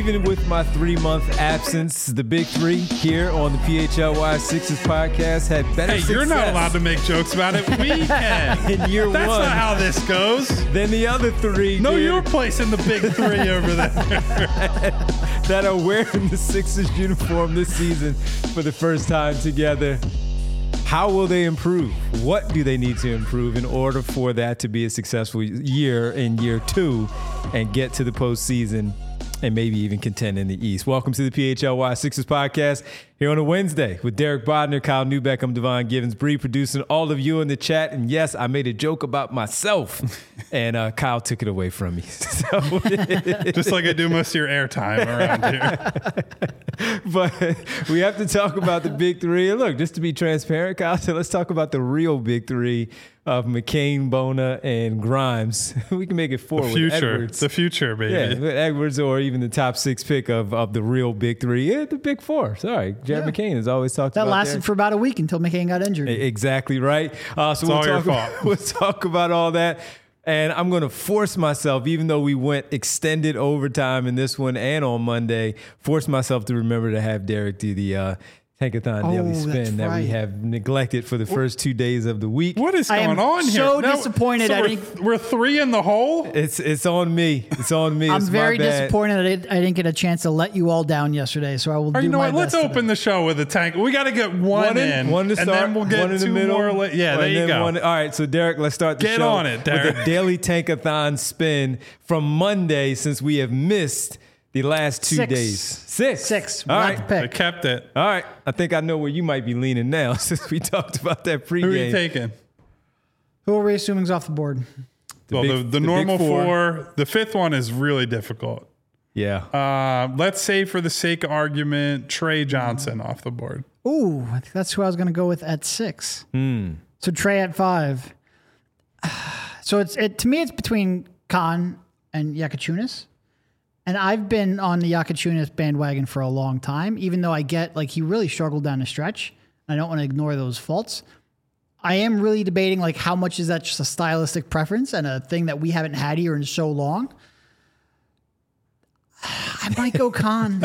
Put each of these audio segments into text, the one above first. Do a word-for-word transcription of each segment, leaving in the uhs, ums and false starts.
Even with my three-month absence, the big three here on the P H L Y Sixers podcast had better Hey, success. You're not allowed to make jokes about it. We can. In year That's one. not how this goes. Then the other three No, did, you're placing the big three over there. that are wearing the Sixers uniform this season for the first time together. How will they improve? What do they need to improve in order for that to be a successful year in year two and get to the postseason and maybe even contend in the East? Welcome to the P H L Y Sixers podcast here on a Wednesday with Derek Bodner, Kyle Newbeck. I'm Devon Givens, Bree producing all of you in the chat. And yes, I made a joke about myself and uh, Kyle took it away from me. So, Just like I do most of your airtime around here. but we have to talk about the big three. And look, just to be transparent, Kyle, so let's talk about the real big three of McCain, Bona, and Grimes. We can make it four The with future. Edwards. The future, baby. Yeah, with Edwards or even the top six pick of, of the real big three. Yeah, the big four. Sorry. Jared Yeah. McCain has always talked That about lasted that. for about a week until McCain got injured. Exactly right. Uh, so It's we'll all your talk, about, fault. we'll talk about all that. And I'm going to force myself, even though we went extended overtime in this one and on Monday, force myself to remember to have Derek do the uh, Tankathon Oh, Daily that's Spin that we right. have neglected for the first two days of the week. What is I going am on here? so disappointed So I we're, didn't- we're three in the hole? It's it's on me. It's on me. I'm It's my very bad. disappointed I didn't, I didn't get a chance to let you all down yesterday, so I will Or do you know my what? Let's best open today. the show with a tank. We got to get one, One in, in, one to and start, then we'll get one in the two middle. more. La- yeah, there and you then go. one- all right, so Derek, let's start the Get show on it, Derek. with a daily Tankathon spin from Monday since we have missed the last two Six. days. Six. Six. All We'll right. have to I pick. kept it. All right. I think I know where you might be leaning now since we talked about that pregame. Who are you taking? Who are we assuming is off the board? The well, big- the, the the big normal four. four. The fifth one is really difficult. Yeah. Uh, let's say, for the sake of argument, Trey Johnson off the board. Ooh, I think that's who I was going to go with at six. Hmm. So Trey at five. So it's it to me, it's between Khan and Yakachunas. And I've been on the Yakachunas bandwagon for a long time, even though I get like he really struggled down the stretch. I don't want to ignore those faults. I am really debating like how much is that just a stylistic preference and a thing that we haven't had here in so long. I might go Khan.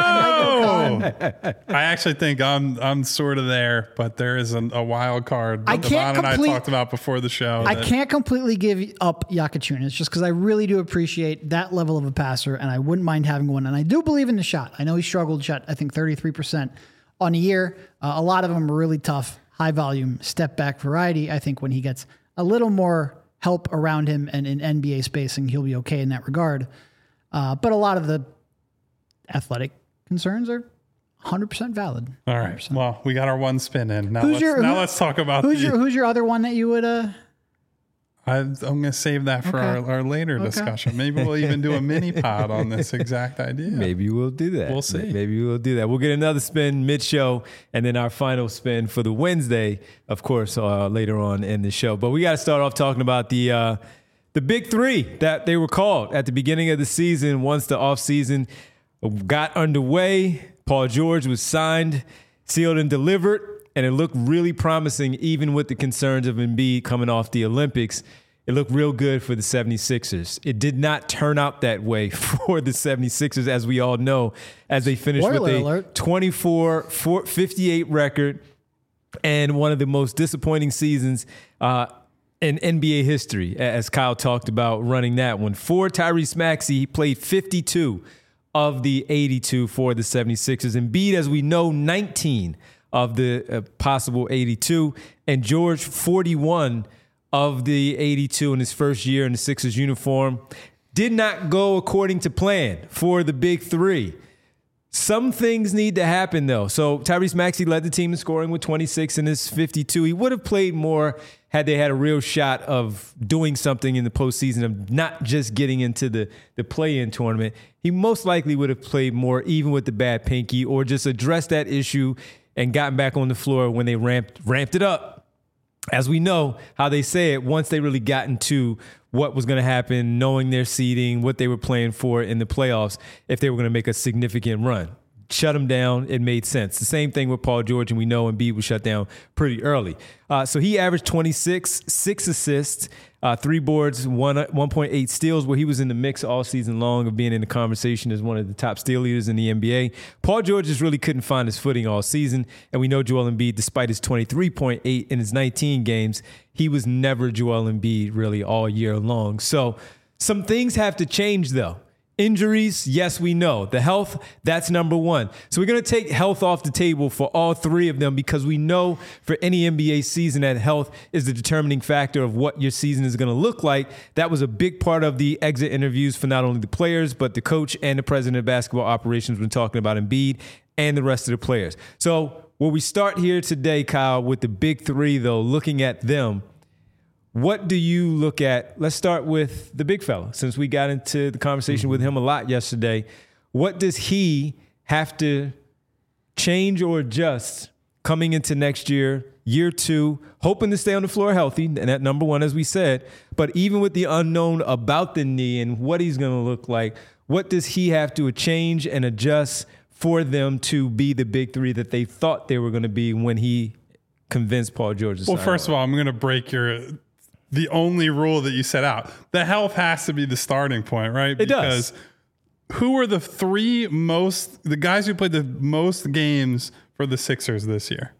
I might go Khan. I actually think I'm I'm sort of there, but there is an, a wild card that I Devon can't and I complete- talked about before the show. I that- can't completely give up Yakachunas just because I really do appreciate that level of a passer, and I wouldn't mind having one. And I do believe in the shot. I know he struggled shot, I think thirty-three percent on a year. Uh, a lot of them are really tough, high volume, step back variety. I think when he gets a little more help around him and in N B A spacing, he'll be okay in that regard. Uh, but a lot of the athletic concerns are one hundred percent valid. All right. Well, we got our one spin in. Now, Who's let's, your- now who- let's talk about Who's the, your Who's your other one that you would? Uh, I, I'm going to save that for Okay. our, our later Okay. discussion. Maybe we'll even do a mini pod on this exact idea. Maybe we'll do that. We'll see. Maybe we'll do that. We'll get another spin mid-show, and then our final spin for the Wednesday, of course, uh, later on in the show. But we got to start off talking about the uh, the big three that they were called at the beginning of the season. Once the offseason got underway, Paul George was signed, sealed, and delivered, and it looked really promising, even with the concerns of Embiid coming off the Olympics. It looked real good for the seventy-sixers. It did not turn out that way for the seventy-sixers, as we all know, as they finished Spoiler with a alert. twenty-four fifty-eight record and one of the most disappointing seasons uh, in N B A history, as Kyle talked about running that one. For Tyrese Maxey, he played fifty-two of the eighty-two for the seventy-sixers. Embiid, as we know, nineteen of the uh, possible eighty-two. And George, forty-one of the eighty-two in his first year in the Sixers uniform. Did not go according to plan for the big three. Some things need to happen, though. So Tyrese Maxey led the team in scoring with twenty-six in his fifty-two. He would have played more had they had a real shot of doing something in the postseason, of not just getting into the, the play-in tournament. He most likely would have played more, even with the bad pinky, or just addressed that issue and gotten back on the floor when they ramped ramped it up. As we know, how they say it, once they really got into what was going to happen, knowing their seeding, what they were playing for in the playoffs, if they were going to make a significant run. shut him down, it made sense. The same thing with Paul George, and we know Embiid was shut down pretty early. Uh, so he averaged twenty-six, six assists, uh, three boards, one, one point eight steals, where he was in the mix all season long of being in the conversation as one of the top steal leaders in the N B A. Paul George just really couldn't find his footing all season, and we know Joel Embiid, despite his twenty-three point eight in his nineteen games, he was never Joel Embiid really all year long. So some things have to change, though. Injuries, yes, we know. The health, that's number one. So we're going to take health off the table for all three of them because we know for any N B A season that health is the determining factor of what your season is going to look like. That was a big part of the exit interviews for not only the players, but the coach and the president of basketball operations when talking about Embiid and the rest of the players. So where we start here today, Kyle, with the big three, though, looking at them, what do you look at? Let's start with the big fella, since we got into the conversation with him a lot yesterday. What does he have to change or adjust coming into next year, year two, hoping to stay on the floor healthy, and at number one, as we said, but even with the unknown about the knee and what he's going to look like, what does he have to change and adjust for them to be the big three that they thought they were going to be when he convinced Paul George to sign? Well, first of all, I'm going to break your... the only rule that you set out. The health has to be the starting point, right? It because does. Who are the three most, the guys who played the most games for the Sixers this year?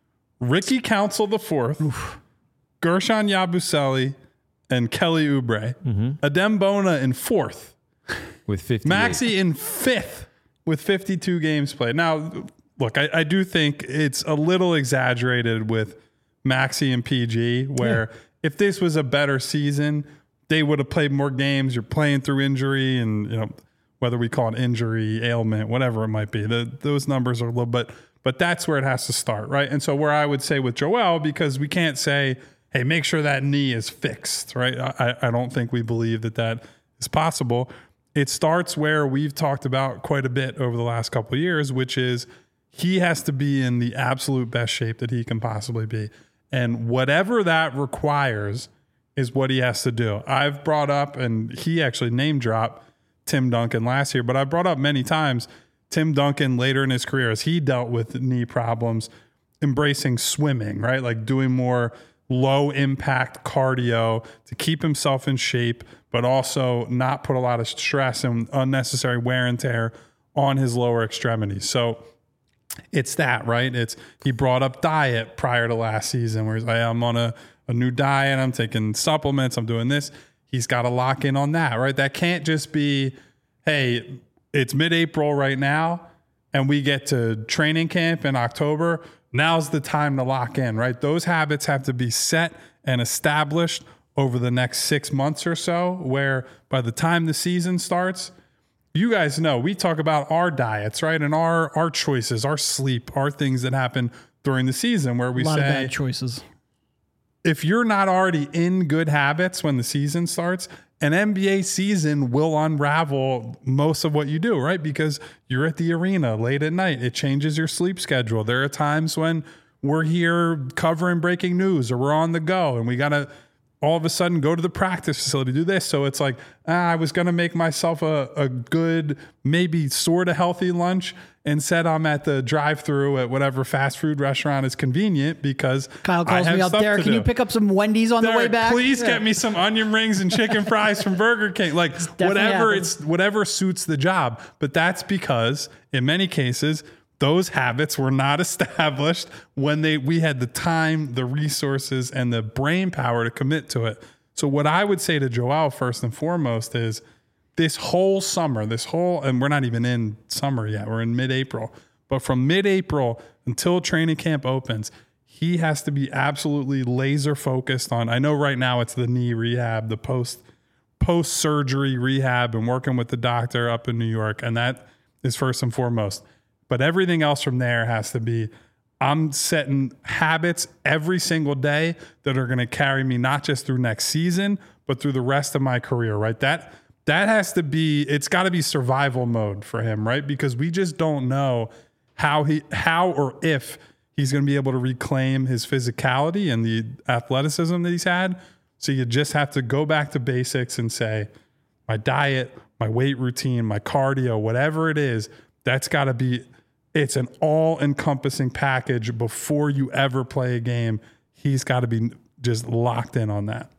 Ricky Council the fourth, Oof. Gershon Yabusele, and Kelly Oubre. Mm-hmm. Adem Bona in fourth. With fifty. Maxey in fifth with fifty-two games played. Now, look, I, I do think it's a little exaggerated with Maxey and P G, where... Yeah. If this was a better season, they would have played more games. You're playing through injury, and you know whether we call it injury, ailment, whatever it might be. The, those numbers are a little bit, but that's where it has to start, right? And so where I would say with Joel, because we can't say, hey, make sure that knee is fixed, right? I, I don't think we believe that that is possible. It starts where we've talked about quite a bit over the last couple of years, which is he has to be in the absolute best shape that he can possibly be. And whatever that requires is what he has to do. I've brought up, and he actually name dropped Tim Duncan last year, but I brought up many times Tim Duncan later in his career as he dealt with knee problems, embracing swimming, right? Like doing more low impact cardio to keep himself in shape, but also not put a lot of stress and unnecessary wear and tear on his lower extremities. So it's that, right? It's he brought up diet prior to last season where he's like, I'm on a, a new diet. I'm taking supplements. I'm doing this. He's got to lock in on that, right? That can't just be, hey, it's mid-April right now and we get to training camp in October. Now's the time to lock in, right? Those habits have to be set and established over the next six months or so, where by the time the season starts, you guys know we talk about our diets, right? And our our choices, our sleep, our things that happen during the season where we a lot say of bad choices. If you're not already in good habits when the season starts, an N B A season will unravel most of what you do, right? Because you're at the arena late at night. It changes your sleep schedule. There are times when we're here covering breaking news or we're on the go and we got to all of a sudden go to the practice facility, do this. So it's like, ah, I was going to make myself a, a good, maybe sort of healthy lunch. Instead, I'm at the drive-through at whatever fast food restaurant is convenient because Kyle calls I have me up there. Can do. you pick up some Wendy's on Derek, the way back? Please yeah. get me some onion rings and chicken fries from Burger King. Like whatever happens. it's whatever suits the job. But that's because in many cases, those habits were not established when they we had the time, the resources, and the brain power to commit to it. So what I would say to Joel first and foremost is this whole summer, this whole, and we're not even in summer yet, we're in mid-April. But from mid-April until training camp opens, he has to be absolutely laser focused on, I know right now it's the knee rehab, the post post-surgery rehab and working with the doctor up in New York. And that is first and foremost. But everything else from there has to be, I'm setting habits every single day that are going to carry me not just through next season, but through the rest of my career, right? That that has to be, it's got to be survival mode for him, right? Because we just don't know how he, how or if he's going to be able to reclaim his physicality and the athleticism that he's had. So you just have to go back to basics and say, my diet, my weight routine, my cardio, whatever it is, that's got to be it's an all-encompassing package before you ever play a game. He's got to be just locked in on that.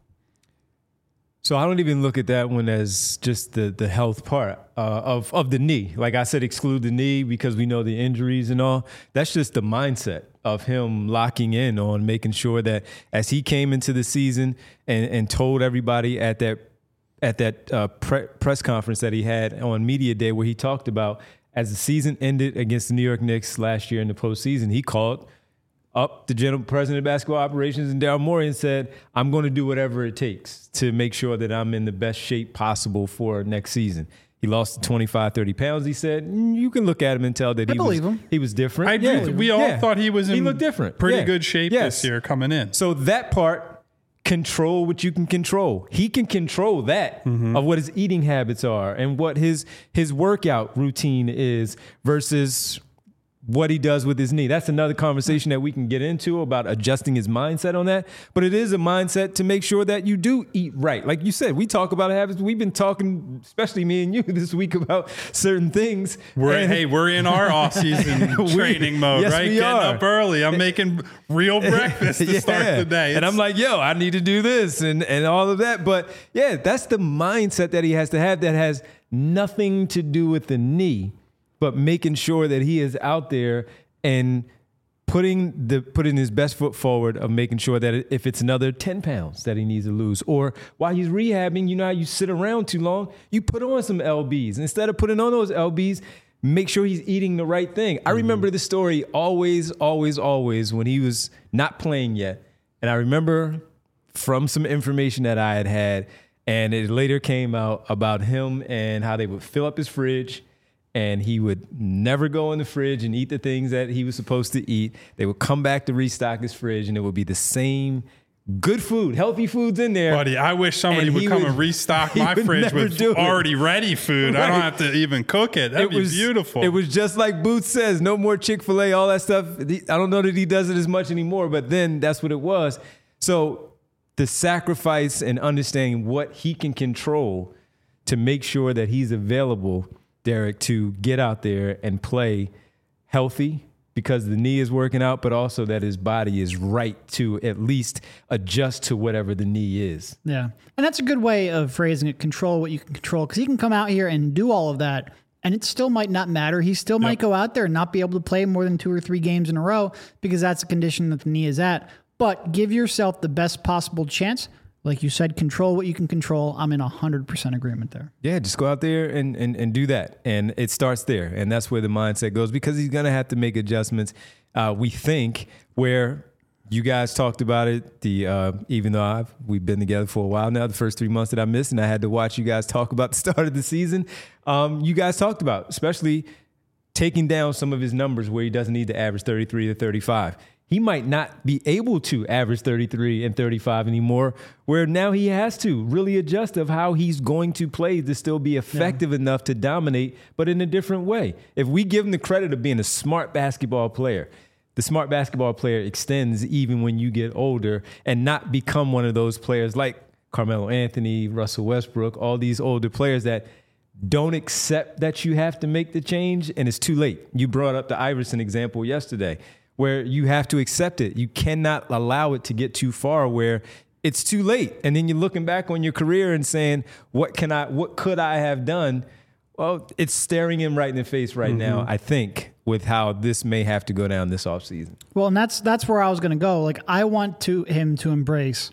So I don't even look at that one as just the the health part uh, of of the knee. Like I said, exclude the knee because we know the injuries and all. That's just the mindset of him locking in on making sure that as he came into the season and, and told everybody at that at that uh, pre- press conference that he had on Media Day where he talked about as the season ended against the New York Knicks last year in the postseason, he called up the general president of basketball operations and Daryl Morey and said, I'm going to do whatever it takes to make sure that I'm in the best shape possible for next season. He lost twenty-five, thirty pounds. He said, mm, you can look at him and tell that I he was, him. he was different. I yeah. do. We all yeah. thought he was in he looked different. pretty yeah. good shape yes. this year coming in. So that part, control what you can control. He can control that mm-hmm. of what his eating habits are and what his his workout routine is versus what he does with his knee. That's another conversation that we can get into about adjusting his mindset on that. But it is a mindset to make sure that you do eat right. Like you said, we talk about habits. We've been talking, especially me and you this week, about certain things. We're, and hey, we're in our off-season training mode, yes, right? We Getting are. up early. I'm making real breakfast to yeah. start the day. It's, and I'm like, yo, I need to do this and, and all of that. But yeah, that's the mindset that he has to have that has nothing to do with the knee, but making sure that he is out there and putting the putting his best foot forward of making sure that if it's another ten pounds that he needs to lose, or while he's rehabbing, you know how you sit around too long, you put on some L Bs. Instead of putting on those L Bs, make sure he's eating the right thing. I remember the story always, always, always when he was not playing yet. And I remember from some information that I had had, and it later came out about him and how they would fill up his fridge, and he would never go in the fridge and eat the things that he was supposed to eat. They would come back to restock his fridge, and it would be the same good food, healthy foods in there. Buddy, I wish somebody And would he come would- and restock he my would fridge never with do it. already ready food. I don't Right. have to even cook it. That'd it be was beautiful. It was just like Booth says, no more Chick-fil-A, all that stuff. I don't know that he does it as much anymore, but then that's what it was. So the sacrifice and understanding what he can control to make sure that he's available, Derek, to get out there and play healthy because the knee is working out, but also that his body is right to at least adjust to whatever the knee is. Yeah. And that's a good way of phrasing it. Control what you can control. Because he can come out here and do all of that, and it still might not matter. He still might Yep. go out there and not be able to play more than two or three games in a row because that's the condition that the knee is at. But give yourself the best possible chance. Like you said, control what you can control. I'm in one hundred percent agreement there. Yeah, just go out there and, and, and do that. And it starts there. And that's where the mindset goes because he's going to have to make adjustments, uh, we think, where you guys talked about it. The uh, even though I've, we've been together for a while now, the first three months that I missed, and I had to watch you guys talk about the start of the season, um, you guys talked about, especially taking down some of his numbers where he doesn't need to average thirty-three to thirty-five. He might not be able to average thirty-three and thirty-five anymore, where now he has to really adjust of how he's going to play to still be effective yeah. enough to dominate, but in a different way. If we give him the credit of being a smart basketball player, the smart basketball player extends even when you get older and not become one of those players like Carmelo Anthony, Russell Westbrook, all these older players that don't accept that you have to make the change and it's too late. You brought up the Iverson example yesterday, where you have to accept it. You cannot allow it to get too far where it's too late. And then you're looking back on your career and saying, what can I, what could I have done? Well, it's staring him right in the face right mm-hmm. now, I think, with how this may have to go down this offseason. Well, and that's that's where I was going to go. Like, I want to him to embrace,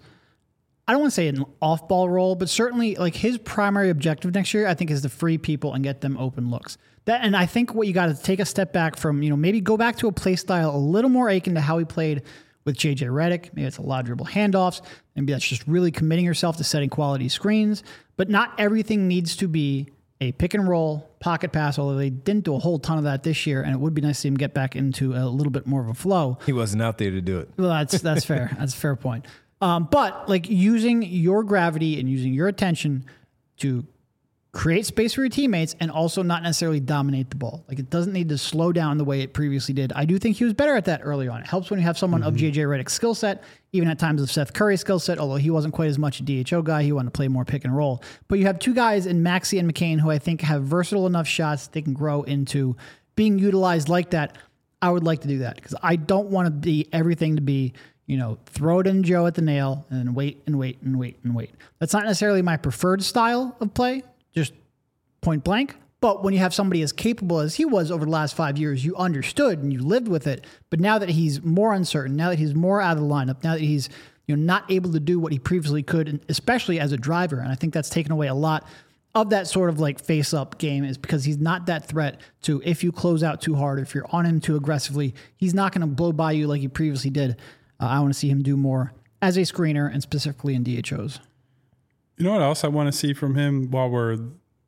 I don't want to say an off-ball role, but certainly like his primary objective next year, I think, is to free people and get them open looks. That, and I think what you got to take a step back from, you know, maybe go back to a play style a little more akin to how he played with J J Redick. Maybe it's a lot of dribble handoffs. Maybe that's just really committing yourself to setting quality screens. But not everything needs to be a pick and roll pocket pass, although they didn't do a whole ton of that this year. And it would be nice to see him get back into a little bit more of a flow. He wasn't out there to do it. Well, that's that's fair. That's a fair point. Um, but like using your gravity and using your attention to create space for your teammates and also not necessarily dominate the ball. Like it doesn't need to slow down the way it previously did. I do think he was better at that early on. It helps when you have someone mm-hmm. of J J Redick's skill set, even at times of Seth Curry's skill set, although he wasn't quite as much a D H O guy. He wanted to play more pick and roll. But you have two guys in Maxey and McCain who I think have versatile enough shots they can grow into being utilized like that, I would like to do that because I don't want to be everything to be, you know, throw it in Joe at the nail and then wait and wait and wait and wait. That's not necessarily my preferred style of play, just point blank. But when you have somebody as capable as he was over the last five years, you understood and you lived with it. But now that he's more uncertain, now that he's more out of the lineup, now that he's, you know, not able to do what he previously could, and especially as a driver, and I think that's taken away a lot of that sort of like face-up game, is because he's not that threat to, if you close out too hard, if you're on him too aggressively, he's not going to blow by you like he previously did. Uh, I want to see him do more as a screener and specifically in D H Os. You know what else I want to see from him while we're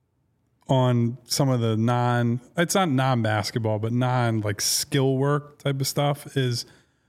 on some of the non, it's not non-basketball, but non like skill work type of stuff, is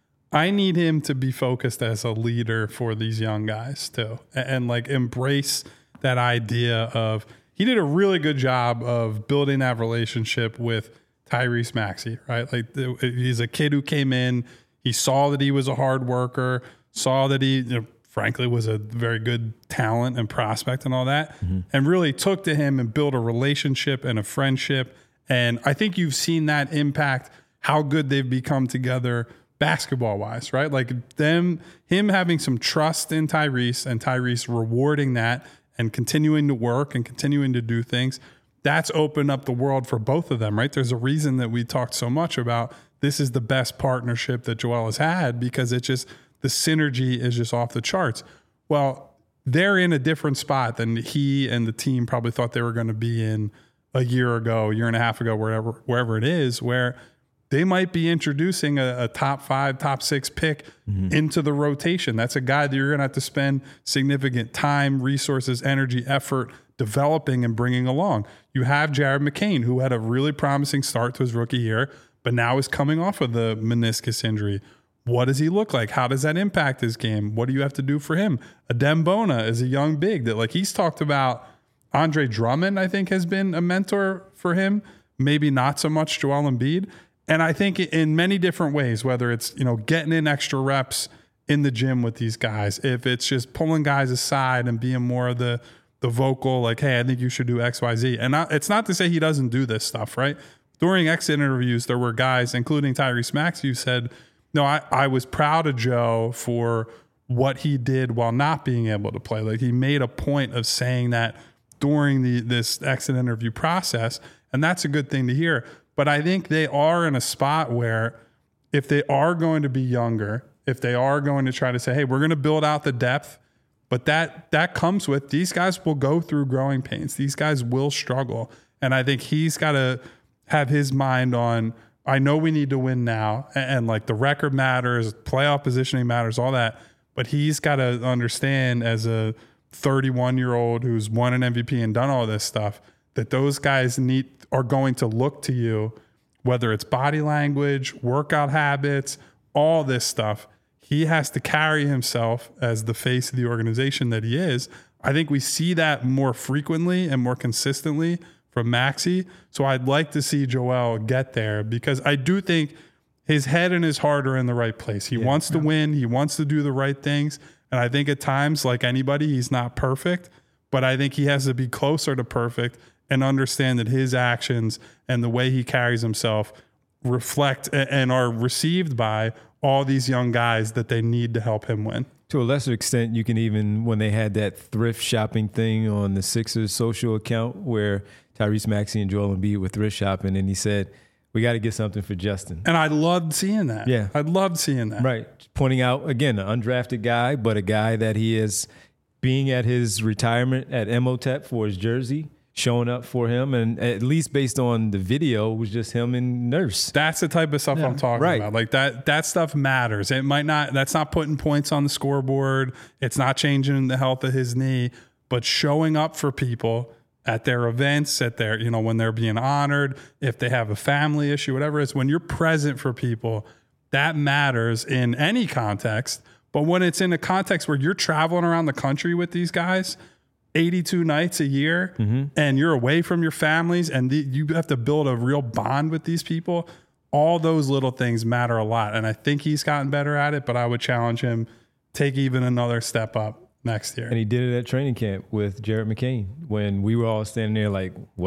I need him to be focused as a leader for these young guys too. And, and like embrace that idea of, he did a really good job of building that relationship with Tyrese Maxey, right? Like the, he's a kid who came in, he saw that he was a hard worker, saw that he, you know, frankly, was a very good talent and prospect and all that, mm-hmm. and really took to him and built a relationship and a friendship. And I think you've seen that impact how good they've become together basketball wise, right? Like them, him having some trust in Tyrese and Tyrese rewarding that and continuing to work and continuing to do things. That's opened up the world for both of them, right? There's a reason that we talked so much about this is the best partnership that Joel has had, because it just, the synergy is just off the charts. Well, they're in a different spot than he and the team probably thought they were going to be in a year ago, a year and a half ago, wherever, wherever it is, where they might be introducing a, a top five, top six pick mm-hmm. into the rotation. That's a guy that you're going to have to spend significant time, resources, energy, effort developing and bringing along. You have Jared McCain, who had a really promising start to his rookie year, but now is coming off of the meniscus injury. What does he look like? How does that impact his game? What do you have to do for him? Adem Bona is a young big that, like, he's talked about. Andre Drummond, I think, has been a mentor for him. Maybe not so much Joel Embiid. And I think in many different ways, whether it's, you know, getting in extra reps in the gym with these guys, if it's just pulling guys aside and being more of the, the vocal, like, hey, I think you should do X, Y, Z. And not, it's not to say he doesn't do this stuff, right? During exit interviews, there were guys, including Tyrese Maxey, who said, no, I, I was proud of Joe for what he did while not being able to play. Like, he made a point of saying that during the this exit interview process, and that's a good thing to hear. But I think they are in a spot where if they are going to be younger, if they are going to try to say, hey, we're going to build out the depth, but that that comes with, these guys will go through growing pains. These guys will struggle. And I think he's got to have his mind on, I know we need to win now, and, and like the record matters, playoff positioning matters, all that. But he's got to understand, as a thirty-one-year-old who's won an M V P and done all this stuff, that those guys need are going to look to you, whether it's body language, workout habits, all this stuff. He has to carry himself as the face of the organization that he is. I think we see that more frequently and more consistently from Maxey. So I'd like to see Joel get there, because I do think his head and his heart are in the right place. He yeah, wants to yeah. win. He wants to do the right things. And I think at times, like anybody, he's not perfect, but I think he has to be closer to perfect and understand that his actions and the way he carries himself reflect and are received by all these young guys that they need to help him win. To a lesser extent, you can even, when they had that thrift shopping thing on the Sixers social account where Tyrese Maxey and Joel Embiid were thrift shopping, and he said, we got to get something for Justin. And I loved seeing that. Yeah. I loved seeing that. Right. Pointing out, again, an undrafted guy, but a guy that he is being at his retirement at M O T E P for his jersey, showing up for him, and at least based on the video, it was just him and Nurse. That's the type of stuff yeah. I'm talking right. about. Like that that stuff matters. It might not, that's not putting points on the scoreboard. It's not changing the health of his knee, but showing up for people at their events, at their, you know, when they're being honored, if they have a family issue, whatever it is, when you're present for people, that matters in any context. But when it's in a context where you're traveling around the country with these guys eighty-two nights a year, mm-hmm. and you're away from your families, and the, you have to build a real bond with these people, all those little things matter a lot. And I think he's gotten better at it, but I would challenge him, take even another step up next year. And he did it at training camp with Jared McCain when we were all standing there like, what?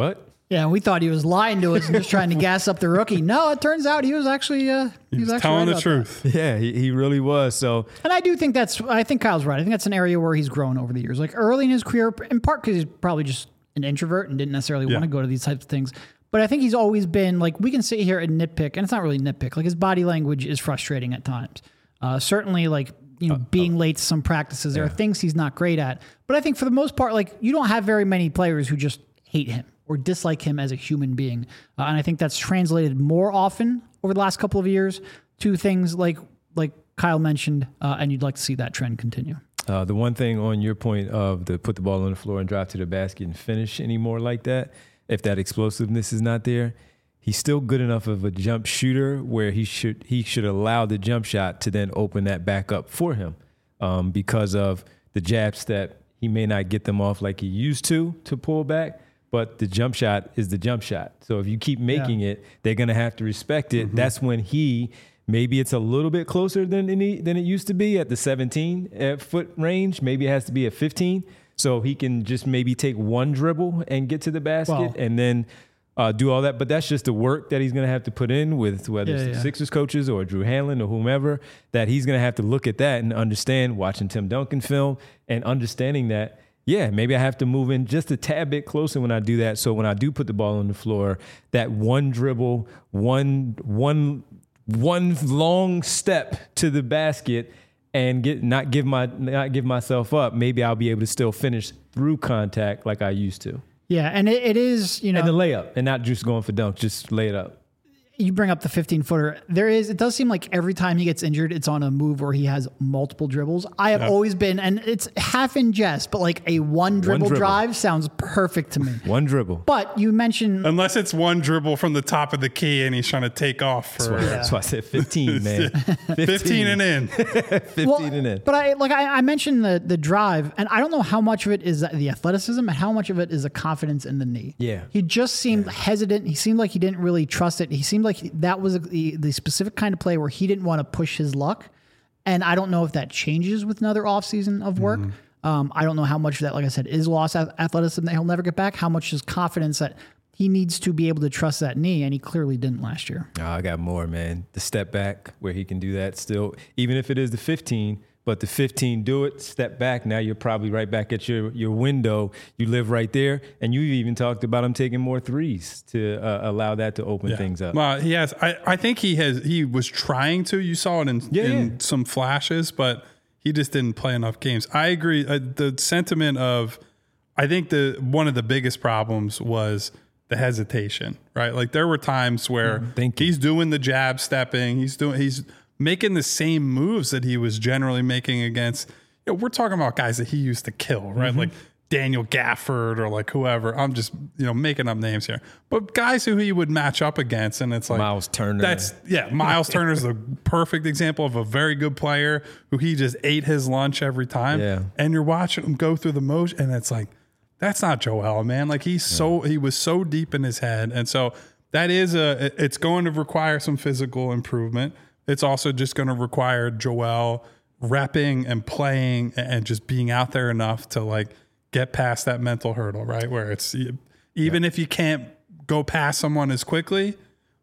Yeah, we thought he was lying to us and just trying to gas up the rookie. No, it turns out he was actually uh, he, He was was actually telling right the about truth. Yeah, he, he really was. So, And I do think that's, I think Kyle's right. I think that's an area where he's grown over the years. Like early in his career, in part because he's probably just an introvert and didn't necessarily Yeah. want to go to these types of things. But I think he's always been like, we can sit here and nitpick, and it's not really nitpick. Like his body language is frustrating at times. Uh, certainly, like, you know, being late to some practices, there are things he's not great at. But I think for the most part, like, you don't have very many players who just hate him or dislike him as a human being. Uh, and I think that's translated more often over the last couple of years to things like like Kyle mentioned, uh, and you'd like to see that trend continue. Uh, the one thing on your point of the put the ball on the floor and drive to the basket and finish anymore like that, if that explosiveness is not there, he's still good enough of a jump shooter where he should he should allow the jump shot to then open that back up for him um, because of the jab step. He may not get them off like he used to to pull back, but the jump shot is the jump shot. So if you keep making Yeah. it, they're going to have to respect it. Mm-hmm. That's when he, maybe it's a little bit closer than any, than it used to be at the seventeen foot range. Maybe it has to be at fifteen. So he can just maybe take one dribble and get to the basket Well- and then uh, do all that. But that's just the work that he's going to have to put in with whether Yeah, it's the yeah. Sixers coaches or Drew Hanlon or whomever, that he's going to have to look at that and understand, watching Tim Duncan film and understanding that, yeah, maybe I have to move in just a tad bit closer when I do that. So when I do put the ball on the floor, that one dribble, one one one long step to the basket and get not give my not give myself up, maybe I'll be able to still finish through contact like I used to. Yeah, and it, it is, you know, And the layup, and not just going for dunk, just lay it up. you bring up the fifteen footer. There is, it does seem like every time he gets injured, it's on a move where he has multiple dribbles. I have Yeah. always been, and it's half in jest, but like a one dribble, dribble. drive sounds perfect to me. One dribble. But you mentioned, Unless it's one dribble from the top of the key and he's trying to take off for That's why I said fifteen, man. fifteen and in. fifteen well, and in. but I like I, I mentioned the the drive, and I don't know how much of it is the athleticism and how much of it is the confidence in the knee. Yeah. he just seemed hesitant. He seemed like he didn't really trust it. He seemed like he, that was the the specific kind of play where he didn't want to push his luck. And I don't know if that changes with another offseason of work. Um, I don't know how much of that, like I said, is lost ath- athleticism that he'll never get back. How much is confidence that he needs to be able to trust that knee, and he clearly didn't last year. Oh, I got more, man. The step back where he can do that still, even if it is the fifteen, but the fifteen, do it, step back. Now you're probably right back at your, your window. You live right there. And you even talked about him taking more threes to uh, allow that to open Yeah. things up. Well, he has. I, I think he has. He was trying to. You saw it in, Yeah, in yeah. some flashes, but he just didn't play enough games. I agree. Uh, the sentiment of, I think the one of the biggest problems was the hesitation. Right, like there were times where thank you. he's doing the jab stepping. He's doing. He's making the same moves that he was generally making against. You know, we're talking about guys that he used to kill, right? Like Daniel Gafford or like whoever. I'm just, you know, making up names here. But guys who he would match up against, and it's like Miles Turner. That's yeah, Miles Turner is the perfect example of a very good player who he just ate his lunch every time. Yeah. And you're watching him go through the motion, and it's like, that's not Joel, man. Like he's so he was so deep in his head. And so that is a it's going to require some physical improvement. It's also just going to require Joel repping and playing and just being out there enough to like get past that mental hurdle, right? Where it's even if you can't go past someone as quickly,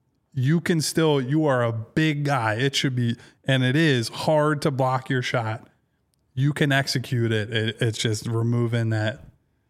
you can still, you are a big guy. It should be, and it is hard to block your shot. You can execute it. it it's just removing that,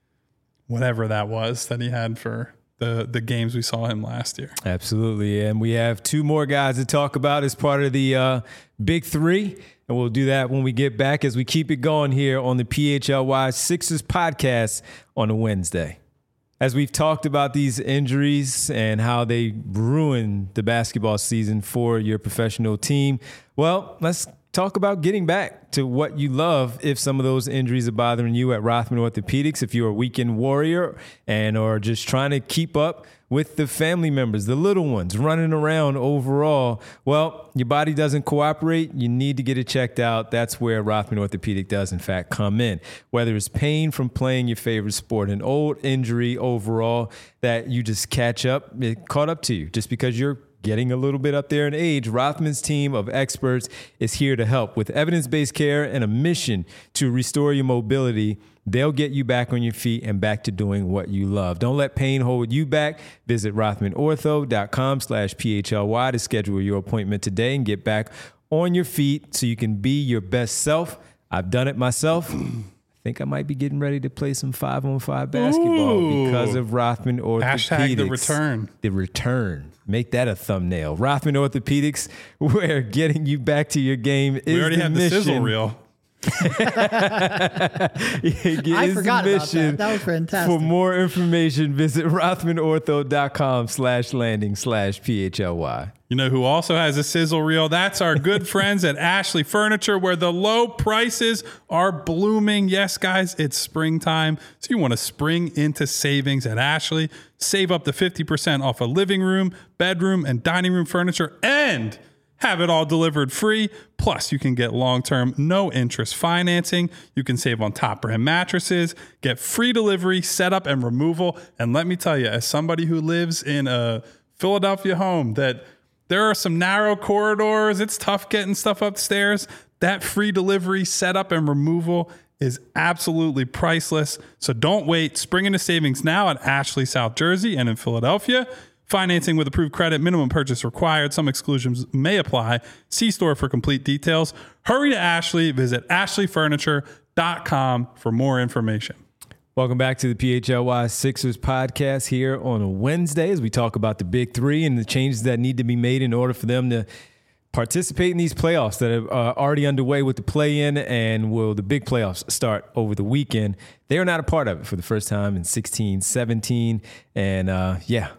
whatever that was that he had for the the games we saw him last year. Absolutely. And we have two more guys to talk about as part of the uh, Big Three. And we'll do that when we get back as we keep it going here on the P H L Y Sixers podcast on a Wednesday. As we've talked about these injuries and how they ruin the basketball season for your professional team, well, let's talk about getting back to what you love if some of those injuries are bothering you at Rothman Orthopedics, if you're a weekend warrior and are just trying to keep up with the family members, the little ones running around overall. Well, your body doesn't cooperate. You need to get it checked out. That's where Rothman Orthopedic does, in fact, come in. Whether it's pain from playing your favorite sport, an old injury overall that you just catch up, it caught up to you just because you're getting a little bit up there in age, Rothman's team of experts is here to help. With evidence-based care and a mission to restore your mobility, they'll get you back on your feet and back to doing what you love. Don't let pain hold you back. Visit rothmanortho.com slash PHLY to schedule your appointment today and get back on your feet so you can be your best self. I've done it myself. I think I might be getting ready to play some five-on-five basketball Ooh. because of Rothman Orthopedics. Hashtag the return. The return. Make that a thumbnail. Rothman Orthopedics, where getting you back to your game is We already the have mission. the sizzle reel. I forgot about that. That was fantastic. For more information, visit rothmanortho.com slash landing slash PHLY. You know who also has a sizzle reel? That's our good friends at Ashley Furniture, where the low prices are blooming. Yes, guys, it's springtime. So you want to spring into savings at Ashley. Save up to fifty percent off a living room, bedroom, and dining room furniture, and have it all delivered free. Plus, you can get long-term, no-interest financing. You can save on top brand mattresses, get free delivery, setup, and removal. And let me tell you, as somebody who lives in a Philadelphia home, that there are some narrow corridors. It's tough getting stuff upstairs. That free delivery, setup, and removal is absolutely priceless. So don't wait. Spring into savings now at Ashley, South Jersey, and in Philadelphia. Financing with approved credit, minimum purchase required. Some exclusions may apply. See store for complete details. Hurry to Ashley. Visit ashley furniture dot com for more information. Welcome back to the P H L Y Sixers podcast here on a Wednesday as we talk about the big three and the changes that need to be made in order for them to participate in these playoffs that are uh, already underway with the play-in, and will the big playoffs start over the weekend. They are not a part of it for the first time in sixteen seventeen. And uh, yeah,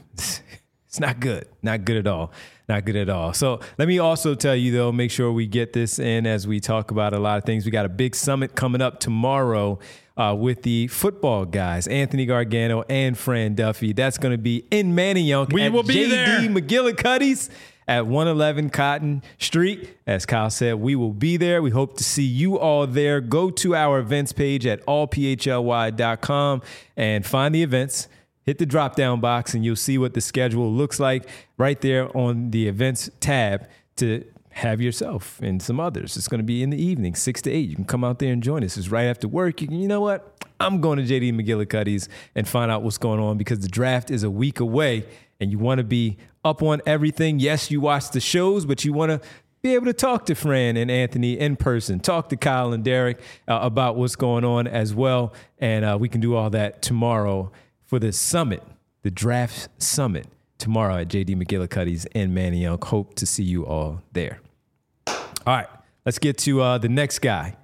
it's not good. Not good at all. Not good at all. So let me also tell you, though, make sure we get this in as we talk about a lot of things. We got a big summit coming up tomorrow uh, with the football guys, Anthony Gargano and Fran Duffy. That's going to be in Manayunk We at will be J D there. McGillicuddy's at one eleven Cotton Street. As Kyle said, we will be there. We hope to see you all there. Go to our events page at all p h l y dot com and find the events. Hit the drop-down box, and you'll see what the schedule looks like right there on the events tab to have yourself and some others. It's going to be in the evening, six to eight. You can come out there and join us. It's right after work. You can, you know what? I'm going to J D McGillicuddy's and find out what's going on, because the draft is a week away, and you want to be up on everything. Yes, you watch the shows, but you want to be able to talk to Fran and Anthony in person, talk to Kyle and Derek uh, about what's going on as well. And uh, we can do all that tomorrow for the summit, the draft summit, tomorrow at J D McGillicuddy's in Manayunk. Hope to see you all there. All right, let's get to uh, the next guy.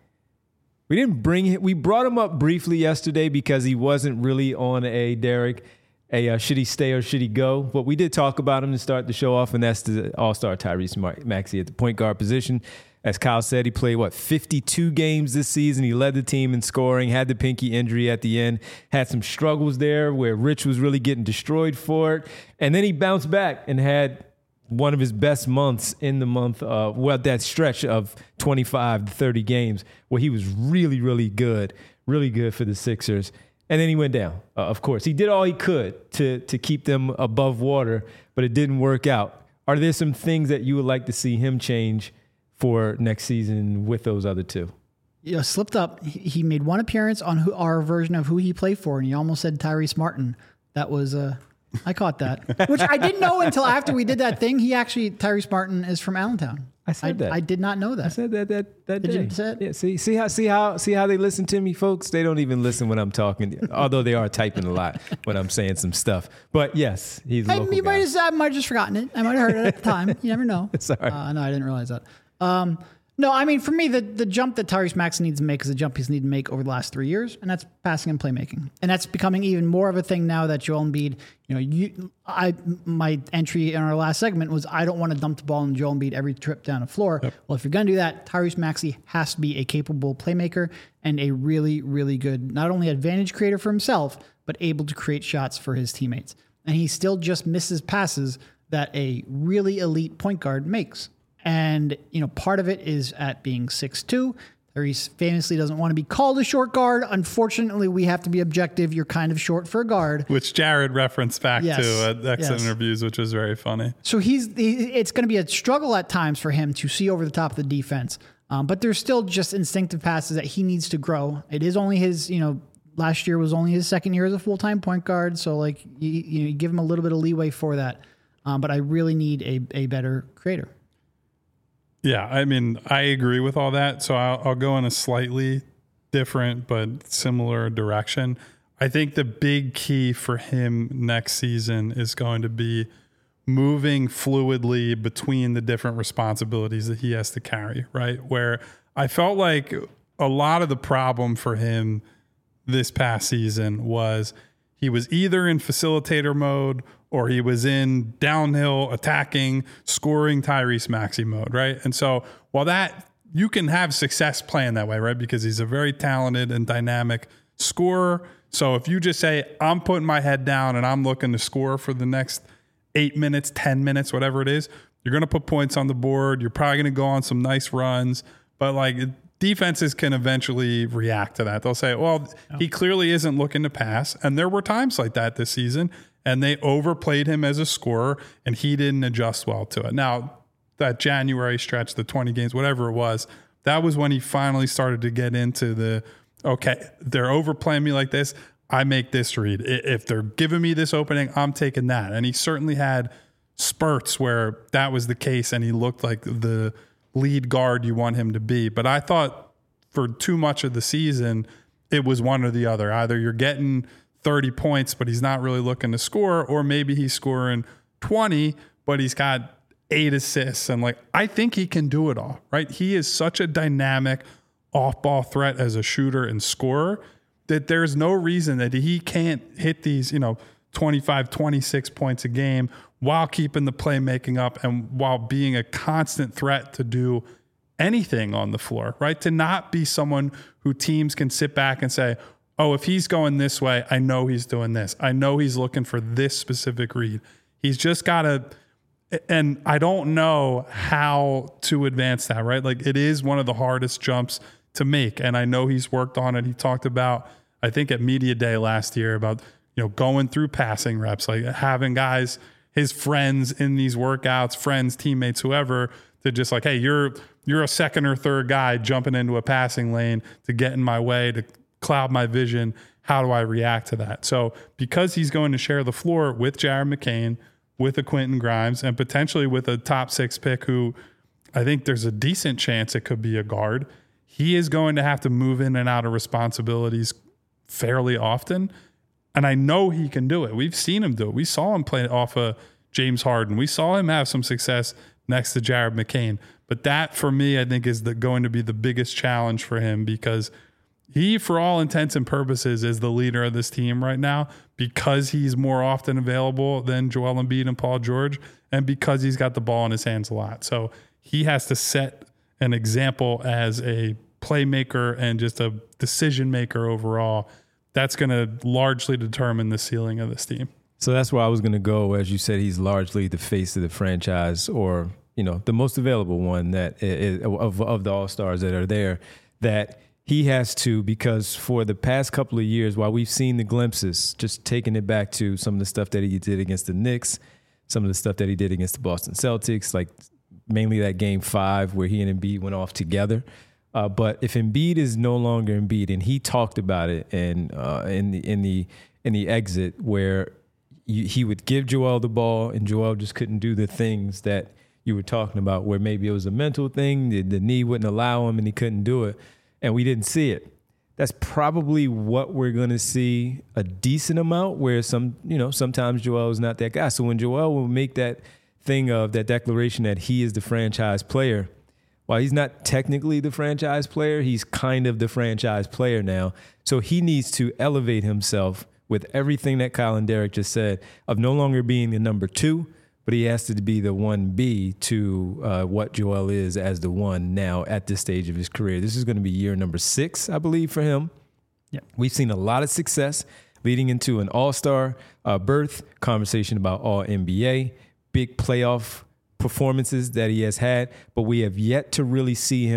We didn't bring him. We brought him up briefly yesterday because he wasn't really on a Derek, a uh, should he stay or should he go? But we did talk about him to start the show off, and that's the all-star Tyrese Maxey at the point guard position. As Kyle said, he played, what, fifty-two games this season. He led the team in scoring, had the pinky injury at the end, had some struggles there where Rich was really getting destroyed for it. And then he bounced back and had one of his best months in the month, uh, well, that stretch of twenty-five to thirty games where he was really, really good, really good for the Sixers. And then he went down, uh, of course. He did all he could to, to keep them above water, but it didn't work out. Are there some things that you would like to see him change for next season with those other two? You know, slipped up. He he made one appearance on who, our version of who he played for, and he almost said Tyrese Martin. That was, uh, I caught that, which I didn't know until after we did that thing. He actually, Tyrese Martin is from Allentown. I said I, that. I did not know that. I said that that that Did day. you say it? Yeah. See, see how see how see how they listen to me, folks. They don't even listen when I'm talking, although they are typing a lot when I'm saying some stuff. But yes, he's a I, local you guy. might have, I might have just forgotten it. I might have heard it at the time. You never know. Sorry. Uh, no, I didn't realize that. Um, no, I mean, for me, the, the jump that Tyrese Maxey needs to make is a jump he's needed to make over the last three years, and that's passing and playmaking. And that's becoming even more of a thing now that Joel Embiid, you know, you, I, my entry in our last segment was I don't want to dump the ball on Joel Embiid every trip down the floor. Yep. Well, if you're going to do that, Tyrese Maxey has to be a capable playmaker and a really, really good, not only advantage creator for himself, but able to create shots for his teammates. And he still just misses passes that a really elite point guard makes. And, you know, part of it is at being six two. or he famously doesn't want to be called a short guard. Unfortunately, we have to be objective. You're kind of short for a guard. Which Jared referenced back Yes. to at exit Yes. interviews, which was very funny. So he's it's going to be a struggle at times for him to see over the top of the defense. Um, but there's still just instinctive passes that he needs to grow. It is only his, you know, last year was only his second year as a full-time point guard. So like you, you, know, you give him a little bit of leeway for that. Um, but I really need a, a better creator. Yeah, I mean, I agree with all that. So I'll, I'll go in a slightly different but similar direction. I think the big key for him next season is going to be moving fluidly between the different responsibilities that he has to carry, right? Where I felt like a lot of the problem for him this past season was he was either in facilitator mode or he was in downhill attacking, scoring Tyrese Maxey mode, right? And so while that, you can have success playing that way, right? Because he's a very talented and dynamic scorer. So if you just say, I'm putting my head down and I'm looking to score for the next eight minutes, ten minutes, whatever it is, you're going to put points on the board. You're probably going to go on some nice runs, but like defenses can eventually react to that. They'll say, well, he clearly isn't looking to pass. And there were times like that this season, and they overplayed him as a scorer and he didn't adjust well to it. Now, that January stretch, the twenty games, whatever it was, that was when he finally started to get into the, okay, they're overplaying me like this. I make this read. If they're giving me this opening, I'm taking that. And he certainly had spurts where that was the case and he looked like the lead guard you want him to be. But I thought for too much of the season, it was one or the other. Either you're getting thirty points, but he's not really looking to score, or maybe he's scoring twenty, but he's got eight assists. And like, I think he can do it all, right? He is such a dynamic off-ball threat as a shooter and scorer that there's no reason that he can't hit these, you know, twenty-five, twenty-six points a game while keeping the playmaking up and while being a constant threat to do anything on the floor, right? To not be someone who teams can sit back and say, oh, if he's going this way, I know he's doing this. I know he's looking for this specific read. He's just got to, and I don't know how to advance that, right? Like it is one of the hardest jumps to make. And I know he's worked on it. He talked about, I think at Media Day last year, about, you know, going through passing reps, like having guys, his friends in these workouts, friends, teammates, whoever, to just like, hey, you're you're a second or third guy jumping into a passing lane to get in my way, to cloud my vision. How do I react to that? So because he's going to share the floor with Jared McCain, with a Quentin Grimes, and potentially with a top six pick who I think there's a decent chance it could be a guard, he is going to have to move in and out of responsibilities fairly often. And I know he can do it. We've seen him do it. We saw him play off of James Harden. We saw him have some success next to Jared McCain. But that, for me, I think is the, going to be the biggest challenge for him, because he, for all intents and purposes, is the leader of this team right now because he's more often available than Joel Embiid and Paul George, and because he's got the ball in his hands a lot. So he has to set an example as a playmaker and just a decision maker overall. That's going to largely determine the ceiling of this team. So that's where I was going to go. As you said, he's largely the face of the franchise, or, you know, the most available one that is, of, of the all-stars that are there, that he has to, because for the past couple of years, while we've seen the glimpses, just taking it back to some of the stuff that he did against the Knicks, some of the stuff that he did against the Boston Celtics, like mainly that game five where he and Embiid went off together. Uh, but if Embiid is no longer Embiid, and he talked about it and uh, in the in the in the exit where you, he would give Joel the ball and Joel just couldn't do the things that you were talking about, where maybe it was a mental thing, the, the knee wouldn't allow him and he couldn't do it, and we didn't see it. That's probably what we're going to see a decent amount, where some, you know, sometimes Joel is not that guy. So when Joel will make that thing of that declaration that he is the franchise player, while he's not technically the franchise player, he's kind of the franchise player now. So he needs to elevate himself with everything that Kyle and Derek just said, of no longer being the number two, but he has to be the one B to uh, what Joel is as the one now at this stage of his career. This is going to be year number six, I believe, for him. Yep. We've seen a lot of success leading into an all-star uh, berth, conversation about all N B A, big playoff performances that he has had, but we have yet to really see him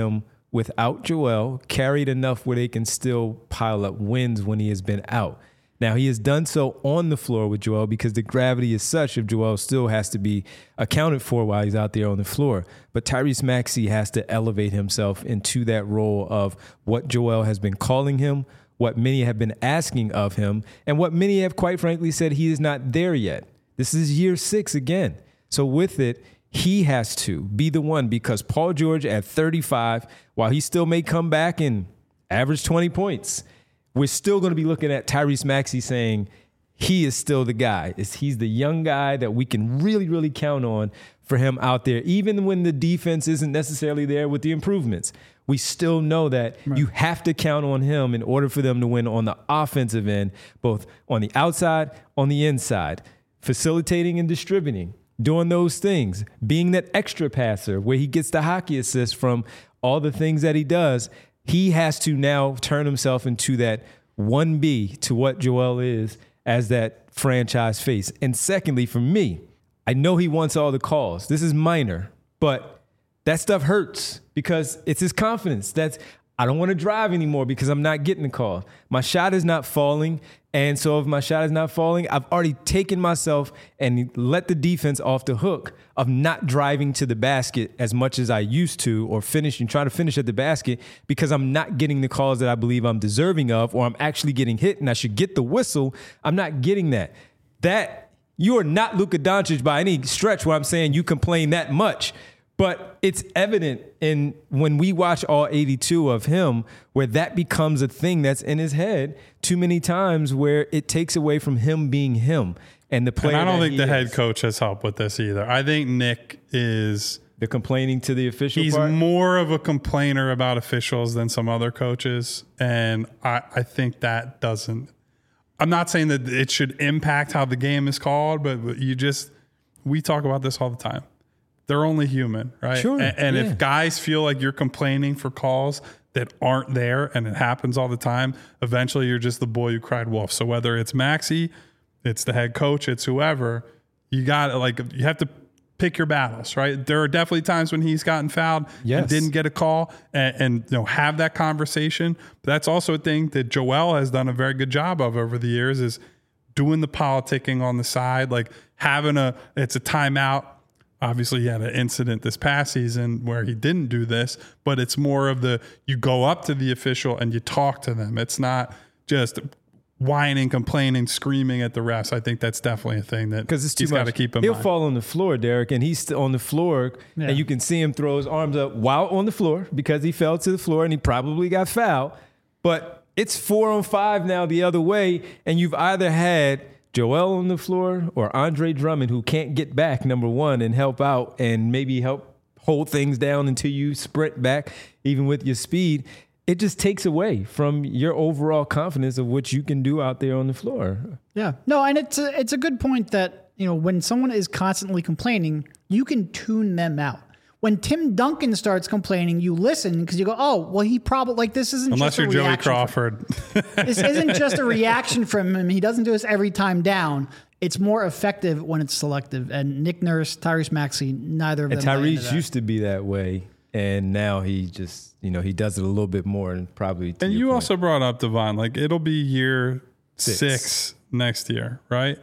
without Joel carried enough where they can still pile up wins when he has been out. Now, he has done so on the floor with Joel because the gravity is such if Joel still has to be accounted for while he's out there on the floor. But Tyrese Maxey has to elevate himself into that role of what Joel has been calling him, what many have been asking of him, and what many have quite frankly said he is not there yet. This is year six again. So with it, he has to be the one because Paul George at thirty-five, while he still may come back and average twenty points, we're still going to be looking at Tyrese Maxey saying he is still the guy. He's the young guy that we can really, really count on for him out there, even when the defense isn't necessarily there with the improvements. We still know that right. You have to count on him in order for them to win on the offensive end, both on the outside, on the inside, facilitating and distributing, doing those things, being that extra passer where he gets the hockey assist from all the things that he does. He has to now turn himself into that one B to what Joel is as that franchise face. And secondly, for me, I know he wants all the calls. This is minor, but that stuff hurts because it's his confidence. That's I don't want to drive anymore because I'm not getting the call. My shot is not falling. And so if my shot is not falling, I've already taken myself and let the defense off the hook of not driving to the basket as much as I used to or finishing, trying to finish at the basket because I'm not getting the calls that I believe I'm deserving of, or I'm actually getting hit and I should get the whistle. I'm not getting that. That you are not Luka Doncic by any stretch where I'm saying you complain that much. But it's evident in when we watch all eighty-two of him where that becomes a thing that's in his head too many times where it takes away from him being him. And the player and I don't think the is, head coach has helped with this either. I think Nick is the complaining to the official He's part? more of a complainer about officials than some other coaches. And I, I think that doesn't – I'm not saying that it should impact how the game is called, but you just – we talk about this all the time. They're only human, right? Sure. And, and yeah. if guys feel like you're complaining for calls that aren't there, and it happens all the time, eventually you're just the boy who cried wolf. So whether it's Maxey, it's the head coach, it's whoever, you got like you have to pick your battles, right? There are definitely times when he's gotten fouled yes. and didn't get a call, and, and you know have that conversation. But that's also a thing that Joel has done a very good job of over the years is doing the politicking on the side, like having a it's a timeout. Obviously, he had an incident this past season where he didn't do this, but it's more of the you go up to the official and you talk to them. It's not just whining, complaining, screaming at the refs. I think that's definitely a thing that because it's too he's got to keep in He'll mind. fall on the floor, Derek, and he's still on the floor, yeah. and you can see him throw his arms up while on the floor because he fell to the floor and he probably got fouled. But it's four on five now the other way, and you've either had Joel on the floor or Andre Drummond, who can't get back, number one, and help out and maybe help hold things down until you sprint back, even with your speed. It just takes away from your overall confidence of what you can do out there on the floor. Yeah. No, and it's a, it's a good point that, you know, when someone is constantly complaining, you can tune them out. When Tim Duncan starts complaining, you listen because you go, oh, well, he probably, like, this isn't Unless just a you're Joey reaction Crawford. From, this isn't just a reaction from him. He doesn't do this every time down. It's more effective when it's selective. And Nick Nurse, Tyrese Maxey, neither of and them. And Tyrese used to be that way. And now he just, you know, he does it a little bit more and probably. And you point. also brought up Devon, like it'll be year six, six next year, right?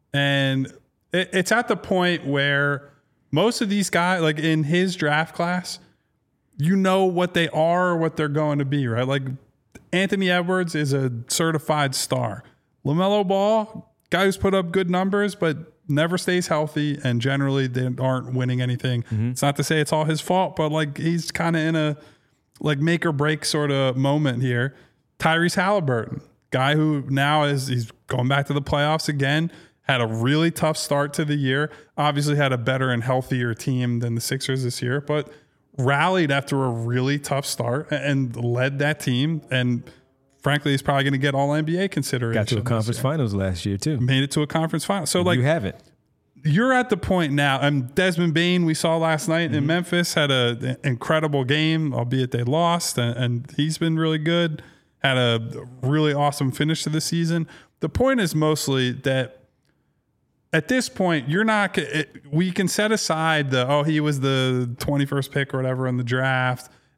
And it, it's at the point where most of these guys, like in his draft class, you know what they are, what they're going to be, right? Like Anthony Edwards is a certified star. LaMelo Ball, guy who's put up good numbers, but never stays healthy, and generally they aren't winning anything. Mm-hmm. It's not to say it's all his fault, but like he's kind of in a like make or break sort of moment here. Tyrese Halliburton, guy who now is he's going back to the playoffs again, had a really tough start to the year. Obviously had a better and healthier team than the Sixers this year, but rallied after a really tough start and led that team. And frankly, he's probably going to get all N B A consideration. Got to a conference finals last year, too. Made it to a conference final. So, like, you haven't. You're at the point now. And Desmond Bane, we saw last night mm-hmm. in Memphis, had an incredible game, albeit they lost. And, and he's been really good. Had a really awesome finish to the season. The point is mostly that at this point, you're not. It, we can set aside the oh, he was the twenty-first pick or whatever in the draft,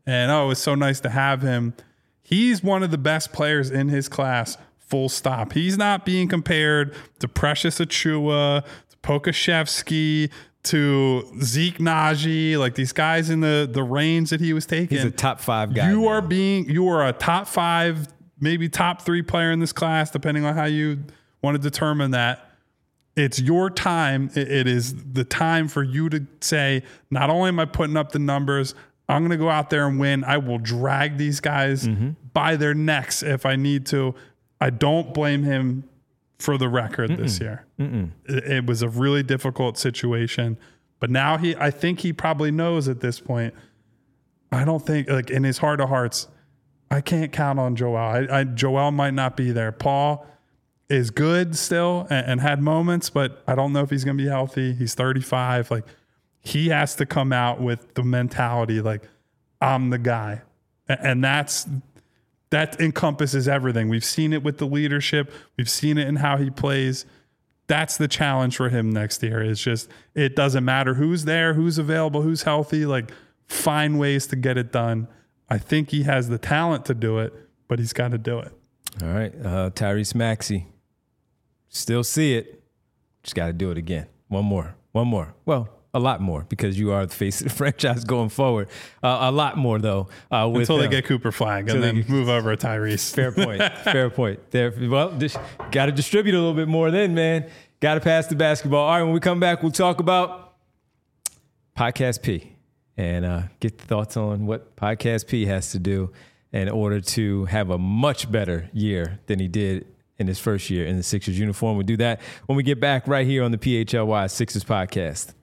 and oh, it was so nice to have him. He's one of the best players in his class, full stop. He's not being compared to Precious Achiuwa, to Pokashevsky, to Zeke Naji, like these guys in the, the range that he was taking. He's a top five guy. You now. are being, you are a top five, maybe top three player in this class, depending on how you want to determine that. It's your time. It, it is the time for you to say, not only am I putting up the numbers, I'm going to go out there and win. I will drag these guys mm-hmm. by their necks if I need to. I don't blame him for the record Mm-mm. this year. It, it was a really difficult situation, but now he, I think he probably knows at this point. I don't think, like in his heart of hearts, I can't count on Joel. I, I Joel might not be there. Paul is good still and, and had moments, but I don't know if he's going to be healthy. He's thirty-five. Like he has to come out with the mentality, like I'm the guy. And, and that's, that encompasses everything. We've seen it with the leadership. We've seen it in how he plays. That's the challenge for him next year. It's just, it doesn't matter who's there, who's available, who's healthy, like find ways to get it done. I think he has the talent to do it, but he's got to do it. All right. Uh, Tyrese Maxey. Still see it. Just got to do it again. One more. One more. Well, a lot more because you are the face of the franchise going forward. Uh, a lot more, though. Uh, with Until them. they get Cooper Flag and then get, move over to Tyrese. Fair point. Fair point. There. Well, got to distribute a little bit more then, man. Got to pass the basketball. All right, when we come back, we'll talk about Podcast P and uh, get the thoughts on what Podcast P has to do in order to have a much better year than he did in his first year in the Sixers uniform. We'll do that when we get back right here on the P H L Y Sixers podcast.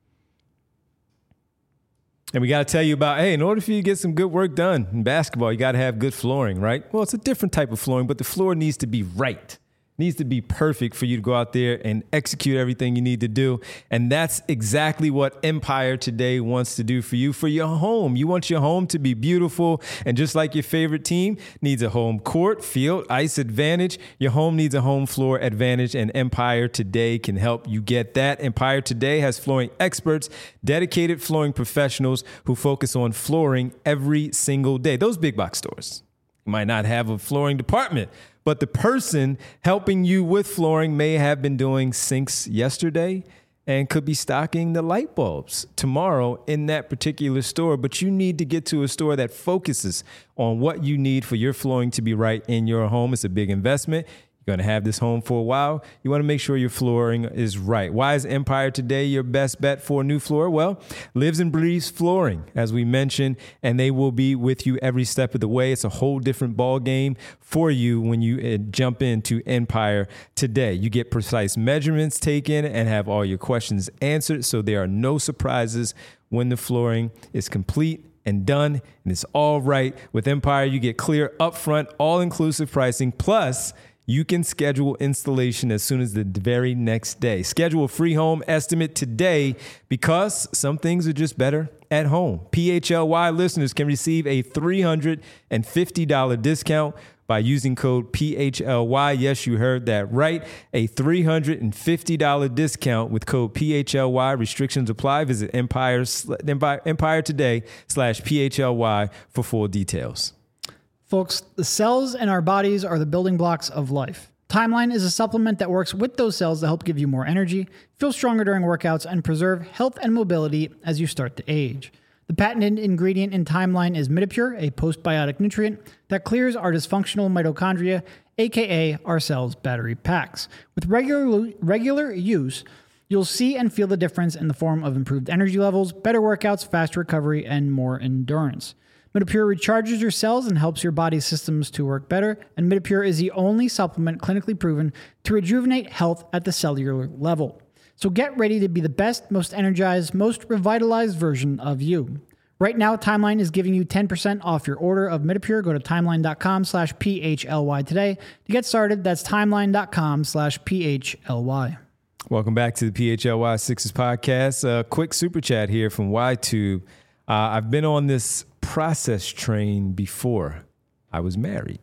And we got to tell you about, hey, in order for you to get some good work done in basketball, you got to have good flooring, right? Well, it's a different type of flooring, but the floor needs to be right. Needs to be perfect for you to go out there and execute everything you need to do. And that's exactly what Empire Today wants to do for you, for your home. You want your home to be beautiful. And just like your favorite team needs a home court, field, ice advantage, your home needs a home floor advantage. And Empire Today can help you get that. Empire Today has flooring experts, dedicated flooring professionals who focus on flooring every single day. Those big box stores might not have a flooring department, but the person helping you with flooring may have been doing sinks yesterday and could be stocking the light bulbs tomorrow in that particular store. But you need to get to a store that focuses on what you need for your flooring to be right in your home. It's a big investment. You're going to have this home for a while. You want to make sure your flooring is right. Why is Empire Today your best bet for a new floor? Well, lives and breathes flooring, as we mentioned, and they will be with you every step of the way. It's a whole different ball game for you when you uh, jump into Empire Today. You get precise measurements taken and have all your questions answered, so there are no surprises when the flooring is complete and done, and it's all right. With Empire, you get clear, upfront, all-inclusive pricing, plus you can schedule installation as soon as the very next day. Schedule a free home estimate today because some things are just better at home. P H L Y listeners can receive a three hundred fifty dollars discount by using code P H L Y. Yes, you heard that right. A three hundred fifty dollars discount with code P H L Y. Restrictions apply. Visit Empire, Empire Today slash P H L Y for full details. Folks, the cells in our bodies are the building blocks of life. Timeline is a supplement that works with those cells to help give you more energy, feel stronger during workouts, and preserve health and mobility as you start to age. The patented ingredient in Timeline is Midopure, a postbiotic nutrient that clears our dysfunctional mitochondria, aka our cells' battery packs. With regular regular use, you'll see and feel the difference in the form of improved energy levels, better workouts, faster recovery, and more endurance. Midopure recharges your cells and helps your body's systems to work better, and Midopure is the only supplement clinically proven to rejuvenate health at the cellular level. So get ready to be the best, most energized, most revitalized version of you. Right now, Timeline is giving you ten percent off your order of Midopure. Go to timeline.com slash PHLY today to get started. That's timeline.com slash PHLY. Welcome back to the P H L Y Sixers podcast. A quick super chat here from YTube. Uh, I've been on this process train before I was married.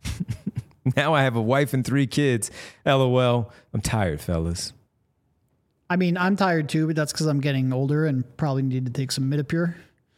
Now I have a wife and three kids. LOL. I'm tired, fellas. I mean, I'm tired too, but that's because I'm getting older and probably need to take some Midopure.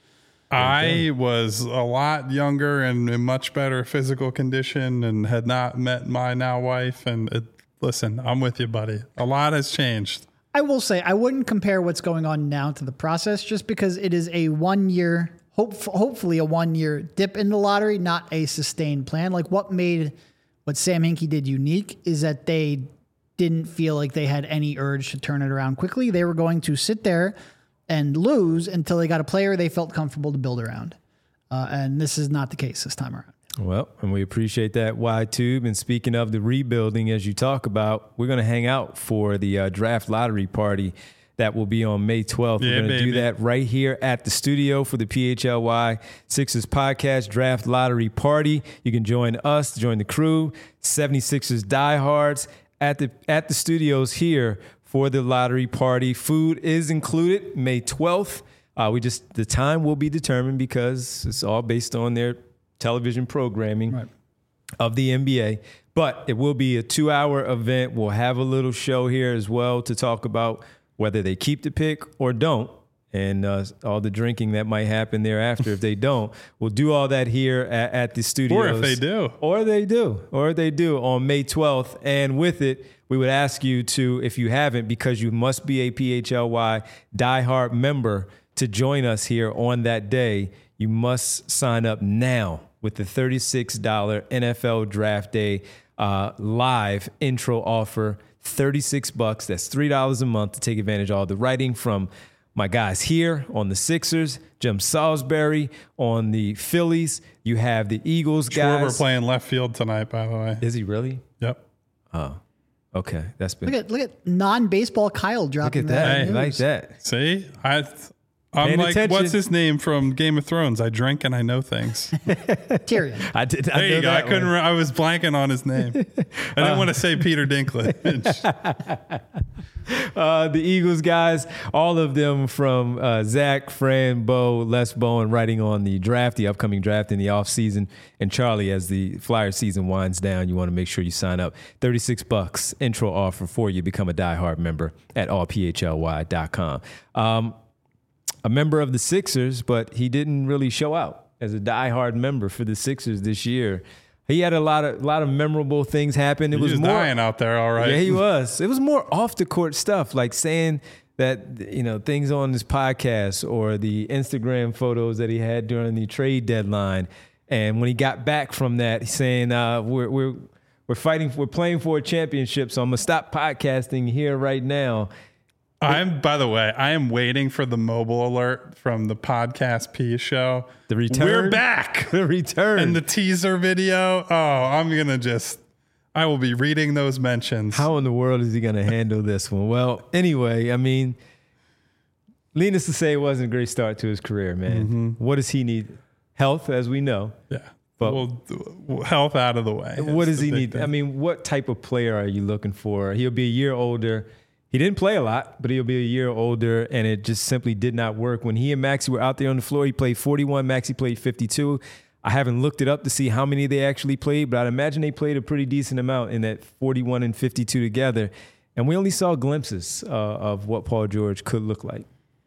I was a lot younger and in much better physical condition and had not met my now wife. And it, listen, I'm with you, buddy. A lot has changed. I will say I wouldn't compare what's going on now to the process just because it is a one year, hope, hopefully a one year dip in the lottery, not a sustained plan. Like what made what Sam Hinkie did unique is that they didn't feel like they had any urge to turn it around quickly. They were going to sit there and lose until they got a player they felt comfortable to build around. Uh, and this is not the case this time around. Well, and we appreciate that, Y-Tube. And speaking of the rebuilding, as you talk about, we're going to hang out for the uh, draft lottery party that will be on May twelfth. Yeah, we're going to baby. do that right here at the studio for the P H L Y Sixers Podcast Draft Lottery Party. You can join us, join the crew, seventy-sixers diehards at the at the studios here for the lottery party. Food is included May twelfth. Uh, we just the time will be determined because it's all based on their television programming Right. of the N B A. But it will be a two-hour event. We'll have a little show here as well to talk about whether they keep the pick or don't, and uh, all the drinking that might happen thereafter if they don't. We'll do all that here at, at the studios. Or if they do. Or they do. Or they do on May twelfth. And with it, we would ask you to, if you haven't, because you must be a P H L Y diehard member to join us here on that day, you must sign up now with the thirty-six dollars N F L Draft Day uh, live intro offer. thirty-six bucks. That's three dollars a month to take advantage of all the writing from my guys here on the Sixers, Jim Salisbury on the Phillies. You have the Eagles guys. Schwarber playing left field tonight, by the way. Is he really? Yep. Oh, okay. That's been. Look at look at non-baseball Kyle dropping Look at that. news. Like that. See? I, I'm Paying like, attention. what's his name from Game of Thrones? I drink and I know things. Tyrion. I did. I There know you go. I that couldn't. one. Re- I was blanking on his name. I didn't want to say Peter Dinklage. Uh, the Eagles guys, all of them from uh, Zach, Fran, Bo, Les Bowen, writing on the draft, the upcoming draft in the offseason. And Charlie, as the Flyer season winds down, you want to make sure you sign up. thirty-six bucks intro offer for you. Become a diehard member at all p h l y dot com. Um, a member of the Sixers, but he didn't really show out as a diehard member for the Sixers this year. He had a lot of lot of memorable things happen. It He was, was more dying out there, all right. Yeah, he was. It was more off the court stuff, like saying that, you know, things on his podcast or the Instagram photos that he had during the trade deadline. And when he got back from that, he's saying, uh, we're we're we're fighting, we're playing for a championship, so I'm gonna stop podcasting here right now. I'm, by the way, I am waiting for the mobile alert from the Podcast P show. The return. We're back. The return. And the teaser video. Oh, I'm going to just, I will be reading those mentions. How in the world is he going to handle this one? Well, anyway, I mean, needless to say, it wasn't a great start to his career, man. Mm-hmm. What does he need? Health, as we know. Yeah. But well, health out of the way. what That's does the he big need? thing. I mean, what type of player are you looking for? He'll be a year older. He didn't play a lot, but he'll be a year older, and it just simply did not work. When he and Maxey were out there on the floor, he played forty-one, Maxey played fifty-two. I haven't looked it up to see how many they actually played, but I'd imagine they played a pretty decent amount in that forty-one and fifty-two together. And we only saw glimpses uh, of what Paul George could look like.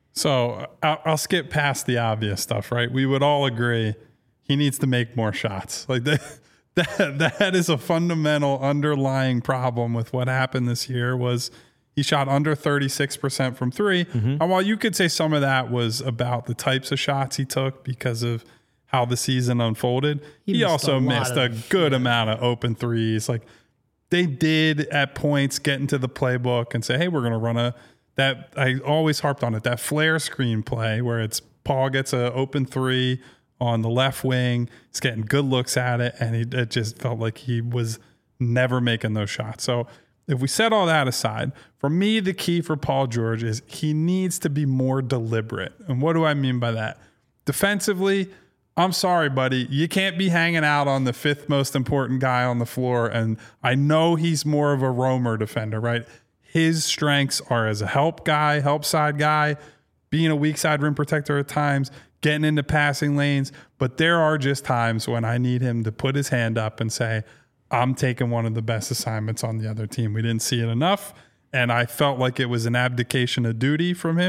So I'll, I'll skip past the obvious stuff, right? We would all agree he needs to make more shots. Like that, that, that is a fundamental underlying problem with what happened this year was he shot under thirty-six percent from three. Mm-hmm. And while you could say some of that was about the types of shots he took because of how the season unfolded, He he, missed also a lot missed a of- good amount of open threes. Like they did at points get into the playbook and say, hey, we're going to run a, that I always harped on it, that flare screen play where it's Paul gets an open three on the left wing. He's getting good looks at it. And he, it just felt like he was never making those shots. So if we set all that aside, for me, the key for Paul George is he needs to be more deliberate. And what do I mean by that? Defensively, I'm sorry, buddy. You can't be hanging out on the fifth most important guy on the floor. And I know he's more of a roamer defender, right? His strengths are as a help guy, help side guy, being a weak side rim protector at times, getting into passing lanes. But there are just times when I need him to put his hand up and say, I'm taking one of the best assignments on the other team. We didn't see it enough, and I felt like it was an abdication of duty from him.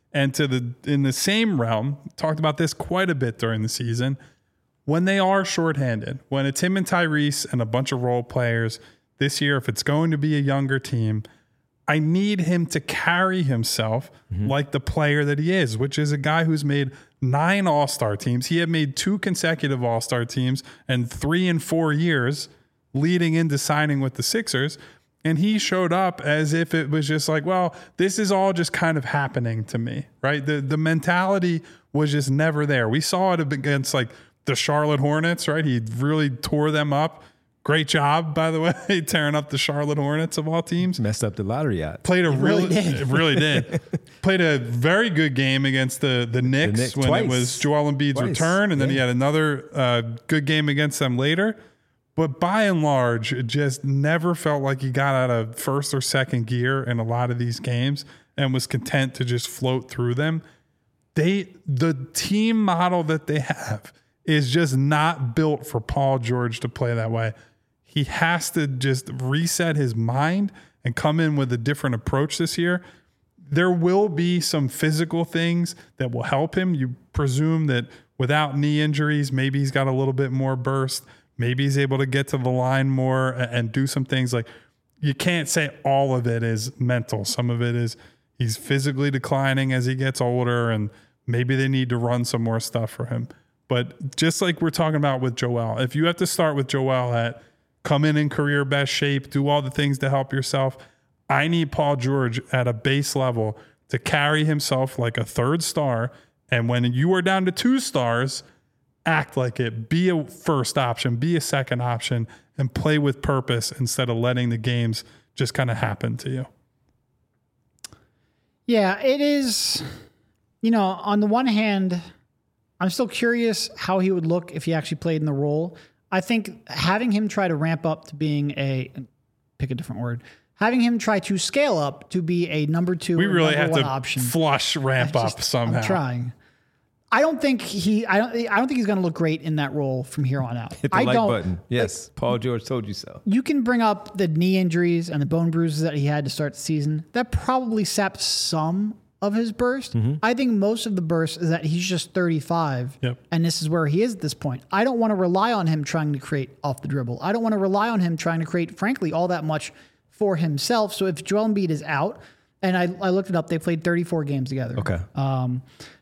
And to the in the same realm, talked about this quite a bit during the season, when they are shorthanded, when it's him and Tyrese and a bunch of role players this year, if it's going to be a younger team, I need him to carry himself mm-hmm. like the player that he is, which is a guy who's made nine All-Star teams. He had made two consecutive All-Star teams and three in four years leading into signing with the Sixers. And he showed up as if it was just like, well, this is all just kind of happening to me, right? The the mentality was just never there. We saw it against like the Charlotte Hornets, right? He really tore them up. Great job, by the way, tearing up the Charlotte Hornets of all teams. Messed up the lottery odds. Played a It really, really did. it really did. Played a very good game against the the Knicks, Knicks when twice. it was Joel Embiid's Twice. return, and then Yeah. he had another uh, good game against them later. But by and large, it just never felt like he got out of first or second gear in a lot of these games and was content to just float through them. They the team model that they have is just not built for Paul George to play that way. He has to just reset his mind and come in with a different approach this year. There will be some physical things that will help him. You presume that without knee injuries, maybe he's got a little bit more burst. Maybe he's able to get to the line more and do some things. Like, you can't say all of it is mental. Some of it is he's physically declining as he gets older, and maybe they need to run some more stuff for him. But just like we're talking about with Joel, if you have to start with Joel at come in in career best shape, do all the things to help yourself, I need Paul George at a base level to carry himself like a third star. And when you are down to two stars, act like it. Be a first option, be a second option, and play with purpose instead of letting the games just kind of happen to you. Yeah, it is. You know, on the one hand, I'm still curious how he would look if he actually played in the role. I think having him try to ramp up to being a, pick a different word, having him try to scale up to be a number two We or really number have one to option. flush ramp I up just- somehow. I'm trying. I don't think he. I don't. I don't think he's going to look great in that role from here on out. Hit the I like don't. button. Yes, Paul George told you so. You can bring up the knee injuries and the bone bruises that he had to start the season. That probably sapped some of his burst. Mm-hmm. I think most of the burst is that he's just thirty-five, Yep. and this is where he is at this point. I don't want to rely on him trying to create off the dribble. I don't want to rely on him trying to create, frankly, all that much for himself. So if Joel Embiid is out, and I, I looked it up, they played thirty-four games together. Okay. Um,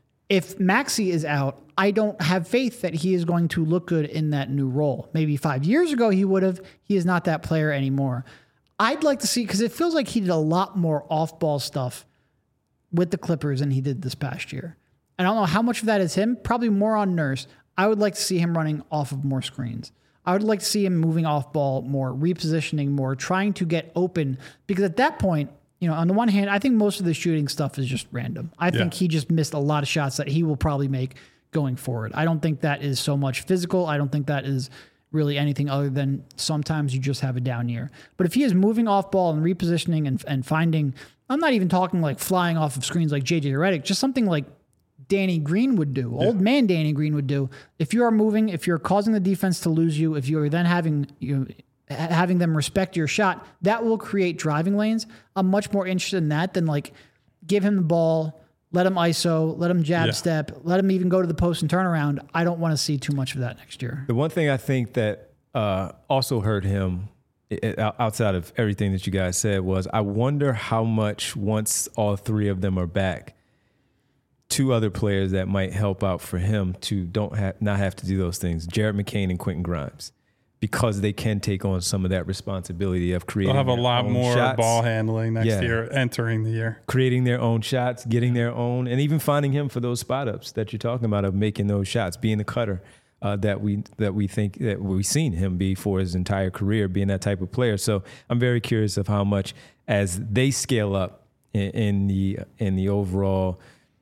if Maxey is out, I don't have faith that he is going to look good in that new role. Maybe five years ago he would have. He is not that player anymore. I'd like to see, because it feels like he did a lot more off-ball stuff with the Clippers than he did this past year. And I don't know how much of that is him. Probably more on Nurse. I would like to see him running off of more screens. I would like to see him moving off ball more, repositioning more, trying to get open. Because at that point, you know, on the one hand, I think most of the shooting stuff is just random. I Yeah. think he just missed a lot of shots that he will probably make going forward. I don't think that is so much physical. I don't think that is really anything other than sometimes you just have a down year. But if he is moving off ball and repositioning and, and finding, I'm not even talking like flying off of screens like J J Redick, just something like Danny Green would do, old man Danny Green would do. If you are moving, if you're causing the defense to lose you, if you are then having you know, having them respect your shot, that will create driving lanes. I'm much more interested in that than like give him the ball, let him I S O, let him jab Yeah. step, let him even go to the post and turn around. I don't want to see too much of that next year. The one thing I think that uh, also hurt him i- i- outside of everything that you guys said was I wonder how much once all three of them are back, two other players that might help out for him to don't have not have to do those things, Jared McCain and Quentin Grimes, because they can take on some of that responsibility of creating They'll have a their lot own more shots, ball handling next Yeah. year, entering the year. creating their own shots, getting their own, and even finding him for those spot ups that you're talking about of making those shots, being the cutter uh, that we that we think that we've seen him be for his entire career, being that type of player. So I'm very curious of how much as they scale up in, in the in the overall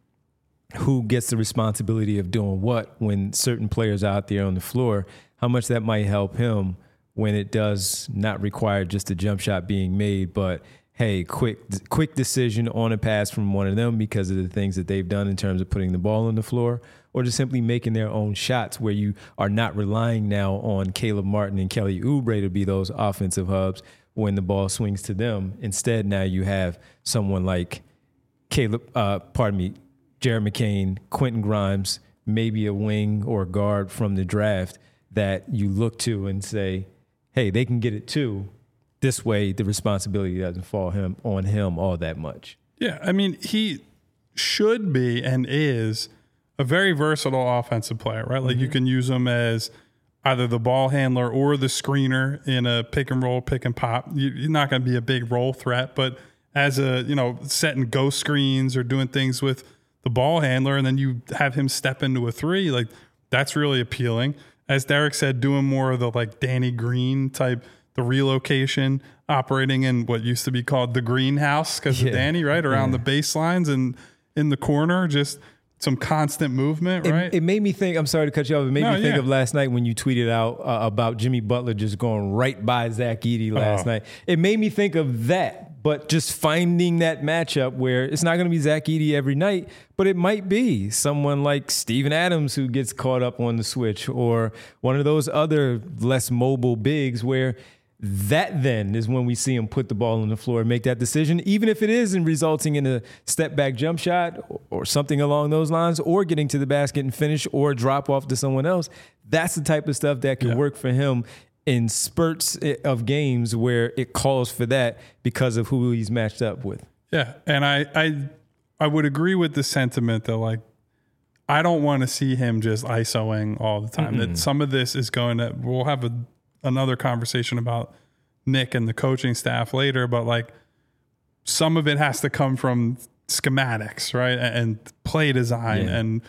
who gets the responsibility of doing what when certain players are out there on the floor, how much that might help him when it does not require just a jump shot being made, but hey, quick quick decision on a pass from one of them because of the things that they've done in terms of putting the ball on the floor, or just simply making their own shots where you are not relying now on Caleb Martin and Kelly Oubre to be those offensive hubs when the ball swings to them. Instead, now you have someone like Caleb, uh, pardon me, Jared McCain, Quentin Grimes, maybe a wing or a guard from the draft that you look to and say, hey, they can get it too. This way, the responsibility doesn't fall him on him all that much. Yeah, I mean, he should be and is a very versatile offensive player, right? Like mm-hmm. you can use him as either the ball handler or the screener in a pick and roll, pick and pop. You're not going to be a big role threat, but as a, you know, setting ghost screens or doing things with the ball handler, and then you have him step into a three, like that's really appealing. As Derek said, doing more of the like Danny Green type, the relocation, operating in what used to be called the greenhouse because yeah. of Danny, right? Around yeah. the baselines and in the corner, just some constant movement, right? It, it made me think, I'm sorry to cut you off, it made no, me think yeah. of last night when you tweeted out uh, about Jimmy Butler just going right by Zach Edey last oh. night. It made me think of that, but just finding that matchup where it's not going to be Zach Edey every night, but it might be someone like Steven Adams who gets caught up on the switch, or one of those other less mobile bigs where that then is when we see him put the ball on the floor and make that decision, even if it isn't resulting in a step back jump shot or something along those lines, or getting to the basket and finish, or drop off to someone else. That's the type of stuff that can yeah. work for him in spurts of games where it calls for that because of who he's matched up with. Yeah. And I, I, I would agree with the sentiment that, like, I don't want to see him just ISOing all the time. Mm-hmm. That some of this is going to, we'll have a, another conversation about Nick and the coaching staff later, but like some of it has to come from schematics, right? And play design yeah. and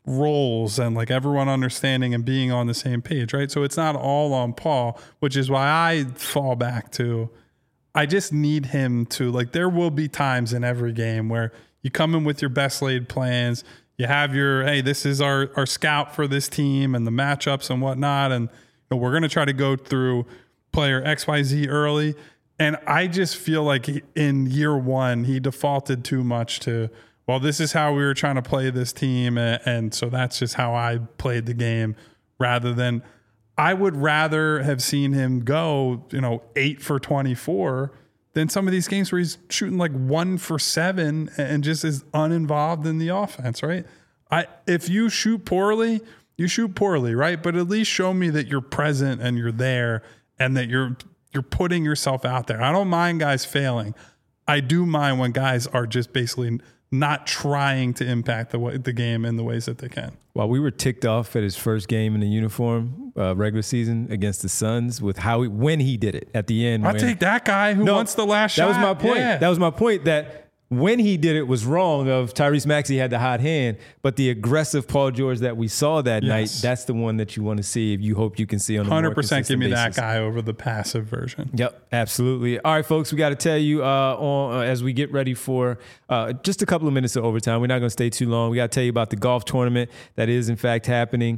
roles and like everyone understanding and being on the same page, right? So it's not all on Paul, which is why I fall back to, I just need him to, like, there will be times in every game where you come in with your best laid plans, you have your, hey, this is our, our scout for this team and the matchups and whatnot. And you know, we're going to try to go through player X Y Z early. And I just feel like he, in year one, he defaulted too much to, well, this is how we were trying to play this team. And, and so that's just how I played the game, rather than, I would rather have seen him go, you know, eight for twenty-four than some of these games where he's shooting like one for seven and just is uninvolved in the offense, right? I, if you shoot poorly, you shoot poorly, right? But at least show me that you're present and you're there and that you're you're putting yourself out there. I don't mind guys failing. I do mind when guys are just basically not trying to impact the way, the game in the ways that they can. While we were ticked off at his first game in the uniform, uh, regular season against the Suns, with how he, when he did it at the end. I'll take that guy who no, wants the last that shot. That was my point. Yeah. That was my point that when he did it was wrong of Tyrese Maxey had the hot hand, but the aggressive Paul George that we saw that yes. night, that's the one that you want to see. If you hope you can see on a one hundred percent more consistent give me basis. That guy over the passive version. Yep, absolutely. All right, folks, we got to tell you uh, on, uh, as we get ready for uh, just a couple of minutes of overtime. We're not going to stay too long. We got to tell you about the golf tournament that is in fact happening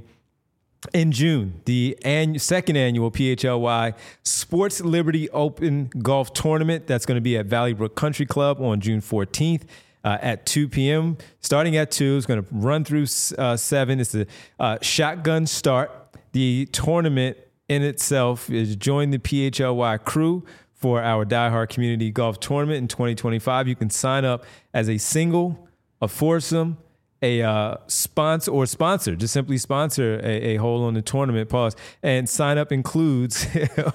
in June, the annual, second annual P H L Y Sports Liberty Open Golf Tournament. That's going to be at Valley Brook Country Club on June fourteenth. Uh, at two p.m. Starting at two, it's going to run through uh, seven. It's a uh, shotgun start. The tournament in itself is join the P H L Y crew for our Die Hard Community Golf Tournament in twenty twenty-five. You can sign up as a single, a foursome, a uh, sponsor or sponsor, just simply sponsor a, a hole on the tournament, pause, and sign up includes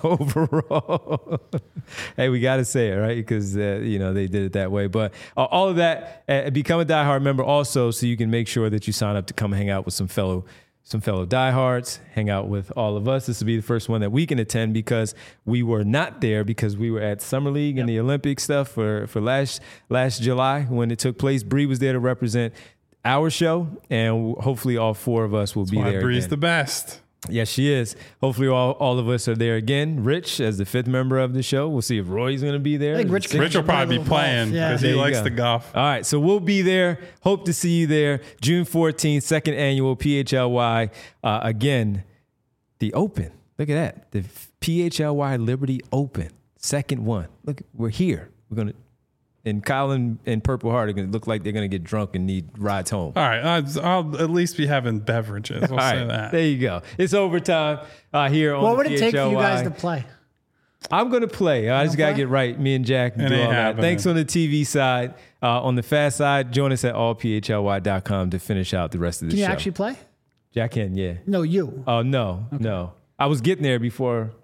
overall. Hey, we got to say it, right? Because, uh, you know, they did it that way. But uh, all of that, uh, become a Die Hard member also, so you can make sure that you sign up to come hang out with some fellow some fellow diehards, hang out with all of us. This will be the first one that we can attend because we were not there because we were at Summer League yep. and the Olympic stuff for, for last last July when it took place. Bree was there to represent our show, and hopefully all four of us will That's be why there Bree's again. The best. Yes, she is. Hopefully all, all of us are there again. Rich, as the fifth member of the show. We'll see if Roy's going to be there. I think Rich, Rich will probably be playing because yeah. he likes go. the golf. All right, so we'll be there. Hope to see you there. June fourteenth, second annual P H L Y. Uh, again, the Open. Look at that. The P H L Y Liberty Open, second one. Look, we're here. We're going to. And Kyle and, and Purple Heart are going to look like they're going to get drunk and need rides home. All right. I'll, I'll at least be having beverages. We'll All say right, that. There you go. It's overtime uh, here on What would the it P H L Y. take for you guys to play? I'm going to play. I just got to play? get right. Me and Jack It do ain't all that. happening. Thanks on the T V side. Uh, on the fast side, join us at all p h l y dot com to finish out the rest of the Can you show. actually play? Jack can, yeah. No, you. Oh, no, no. I was getting there before,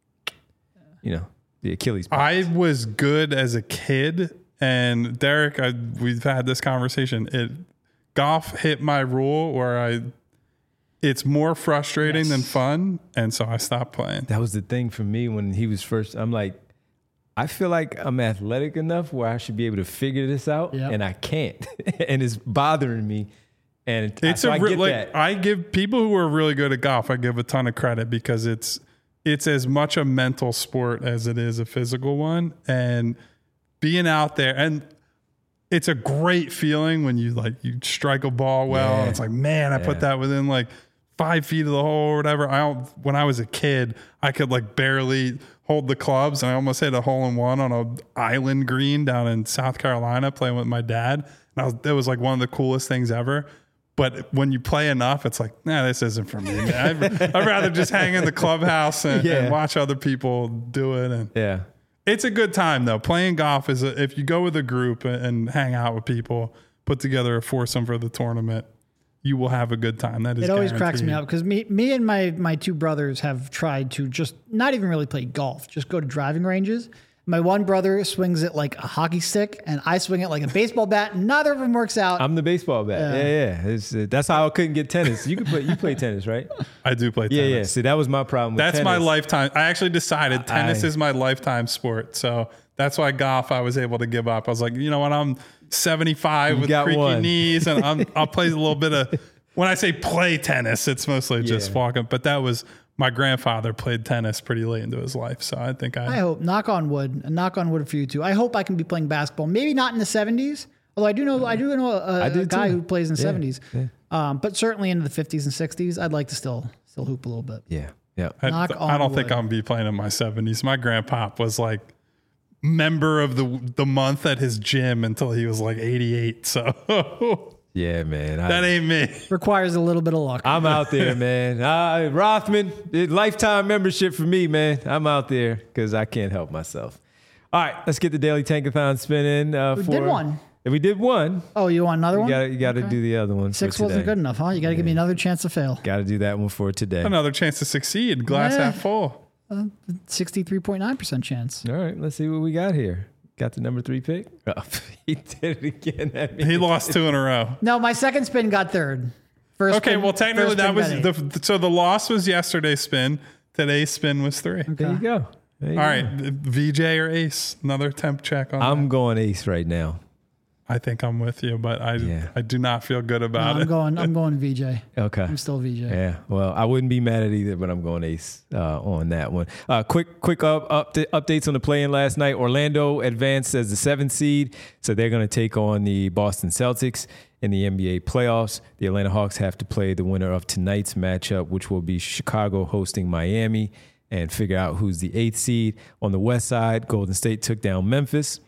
you know, the Achilles. I was good as a kid, and Derek, I, we've had this conversation. It golf hit my rule where I, it's more frustrating Yes. than fun, and so I stopped playing. That was the thing for me when he was first. I'm like, I feel like I'm athletic enough where I should be able to figure this out, Yep. and I can't, and it's bothering me. And It's so a I re- get like that. I give people who are really good at golf, I give a ton of credit because it's it's as much a mental sport as it is a physical one, and being out there, and it's a great feeling when you like you strike a ball well, Yeah. and it's like, man, I put Yeah. that within like five feet of the hole or whatever. I don't, when I was a kid, I could like barely hold the clubs, and I almost hit a hole in one on a island green down in South Carolina playing with my dad. And I was, that was like one of the coolest things ever. But when you play enough, it's like, nah, this isn't for me. Man. I'd, I'd rather just hang in the clubhouse and, Yeah. and watch other people do it. And yeah. it's a good time though. Playing golf is a, if you go with a group and, and hang out with people, put together a foursome for the tournament, you will have a good time. That is It always cracks me guaranteed. up because me, me and my my two brothers have tried to just not even really play golf, just go to driving ranges. My one brother swings it like a hockey stick, and I swing it like a baseball bat. Neither of them works out. I'm the baseball bat. Yeah, yeah. It's, uh, that's how I couldn't get tennis. You could play. You play tennis, right? I do play Yeah, tennis. yeah. See, that was my problem. With That's my tennis. lifetime. I actually decided tennis I- is my lifetime sport. So that's why golf I was able to give up. I was like, you know what? I'm seventy-five with got creaky one. knees, and I'm, I'll play a little bit of. When I say play tennis, it's mostly just Yeah. walking. But that was my grandfather played tennis pretty late into his life, so I think I. I hope, knock on wood, and knock on wood for you too. I hope I can be playing basketball. Maybe not in the seventies, although I do know I do know a, I do a guy too. who plays in the Yeah, seventies. yeah. Um, but certainly into the fifties and sixties, I'd like to still still hoop a little bit. Yeah, yeah. I, knock I on don't think wood. I'm gonna be playing in my seventies. My grandpa was like member of the the month at his gym until he was like eighty-eight. So Yeah, man. I, that ain't me. Requires a little bit of luck. I'm out there, man. Uh, Rothman, it- lifetime membership for me, man. I'm out there because I can't help myself. All right, let's get the Daily Tankathon spinning. Uh, We for, did one. If we did one, Oh, you want another you one? got you got to Okay. do the other one. Six for wasn't today. good enough, huh? You got to give me another chance to fail. Got to do that one for today. All Another chance to succeed. Glass Yeah. half full. sixty-three point nine percent chance. right, let's see what we got here. Got the number three pick. Oh, he did it again. At me. He lost two in a row. No, my second spin got third. First Okay, spin- well, technically first that spin was Betty. the so the loss was yesterday's spin. Today's spin was three. There you go. There you All go. right, V J or Ace? Another temp check on. I'm that. going ace right now. I think I'm with you, but I Yeah. I do not feel good No, about I'm it. going. I'm going V J. Okay. I'm still V J. Yeah, well, I wouldn't be mad at either, but I'm going ace uh, on that one. Uh, quick, quick up, up updates on the play-in last night. Orlando advanced as the seventh seed, so they're going to take on the Boston Celtics in the N B A playoffs. The Atlanta Hawks have to play the winner of tonight's matchup, which will be Chicago hosting Miami, and figure out who's the eighth seed. On the west side, Golden State took down Memphis,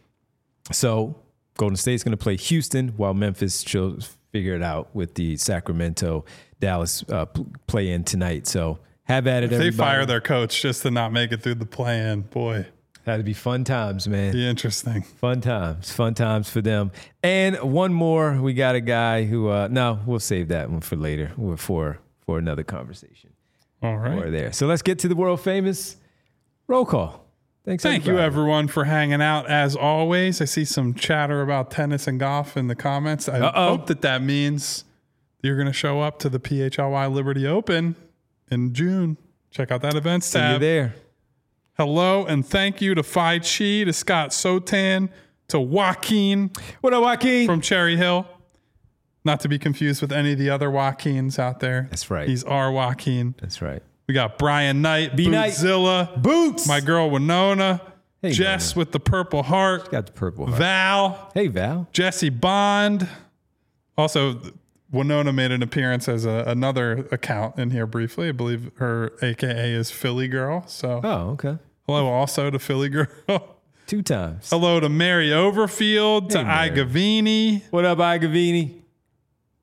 so Golden State's going to play Houston while Memphis should figure it out with the Sacramento Dallas uh, play in tonight. So have at it, If they everybody. fire their coach just to not make it through the play-in, boy, That'd be fun times, man. be interesting. Fun times, fun times for them. And one more, we got a guy who. Uh, no, we'll save that one for later, or for for another conversation. All right. Or there. So let's get to the world famous roll call. Thanks. Thank you, everybody. everyone, for hanging out. As always, I see some chatter about tennis and golf in the comments. I Uh-oh. hope that that means you're going to show up to the P H L Y Liberty Open in June. Check out that events See you tab. there. Hello, and thank you to Phi Chi, to Scott Sotan, to Joaquin What up, Joaquin? from Cherry Hill. Not to be confused with any of the other Joaquins out there. That's right. He's our Joaquin. That's right. We got Brian Knight, B. Knight. Bootzilla, Boots. my girl Winona, Hey, Jess Winona. with the purple heart, Got the purple heart. Val, Hey, Val. Jesse Bond. Also, Winona made an appearance as a, another account in here briefly. I believe her A K A is Philly Girl. So Oh, okay. hello also to Philly Girl. Two times. Hello to Mary Overfield, to Hey, Mary. Igavini, What up, Igavini?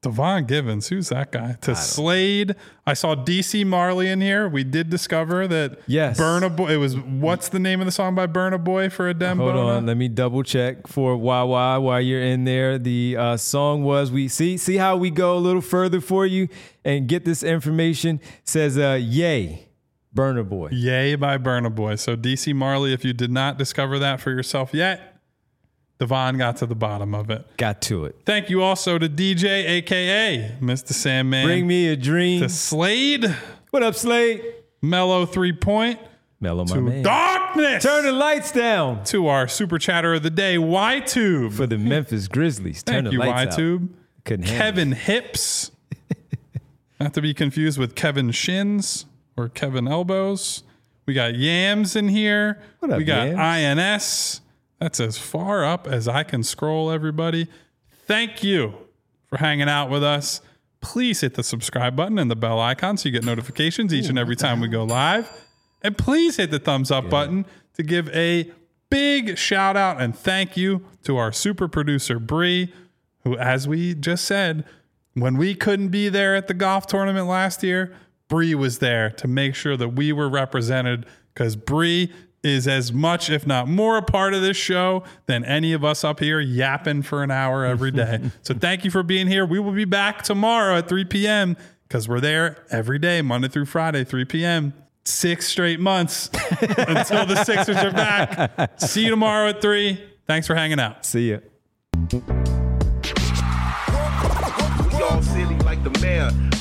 Devon Givens, who's that guy? To Slade. I saw D C Marley in here. We did discover that Yes. Burna Boy, it was, what's the name of the song by Burna Boy for a Dembo? Hold on, let me double check for Wawa while you're in there. The uh, song was we see see how we go a little further for you and get this information. Says uh, Yay, Burna Boy. Yay by Burna Boy. So D C Marley, if you did not discover that for yourself yet, Devon got to the bottom of it. Got to it. Thank you also to D J, a k a. Mister Sandman. Bring me a dream. To Slade. What up, Slade? Mellow three point. Mellow, my To man. darkness. Turn the lights down. To our super chatter of the day, Y-Tube. For the Memphis Grizzlies. Turn Thank the you, lights Y-Tube. out. Couldn't handle Kevin Hips. Not to be confused with Kevin Shins or Kevin Elbows. We got Yams in here. What up, we got Yams? I N S. That's as far up as I can scroll, everybody. Thank you for hanging out with us. Please hit the subscribe button and the bell icon so you get notifications each and every time we go live. And please hit the thumbs up button to give a big shout out and thank you to our super producer, Bree, who, as we just said, when we couldn't be there at the golf tournament last year, Bree was there to make sure that we were represented, because Bree is as much, if not more, a part of this show than any of us up here yapping for an hour every day. So thank you for being here. We will be back tomorrow at three p.m. because we're there every day, Monday through Friday, three p.m. Six straight months until the Sixers are back. See you tomorrow at three. Thanks for hanging out. See ya. We all silly like the mayor.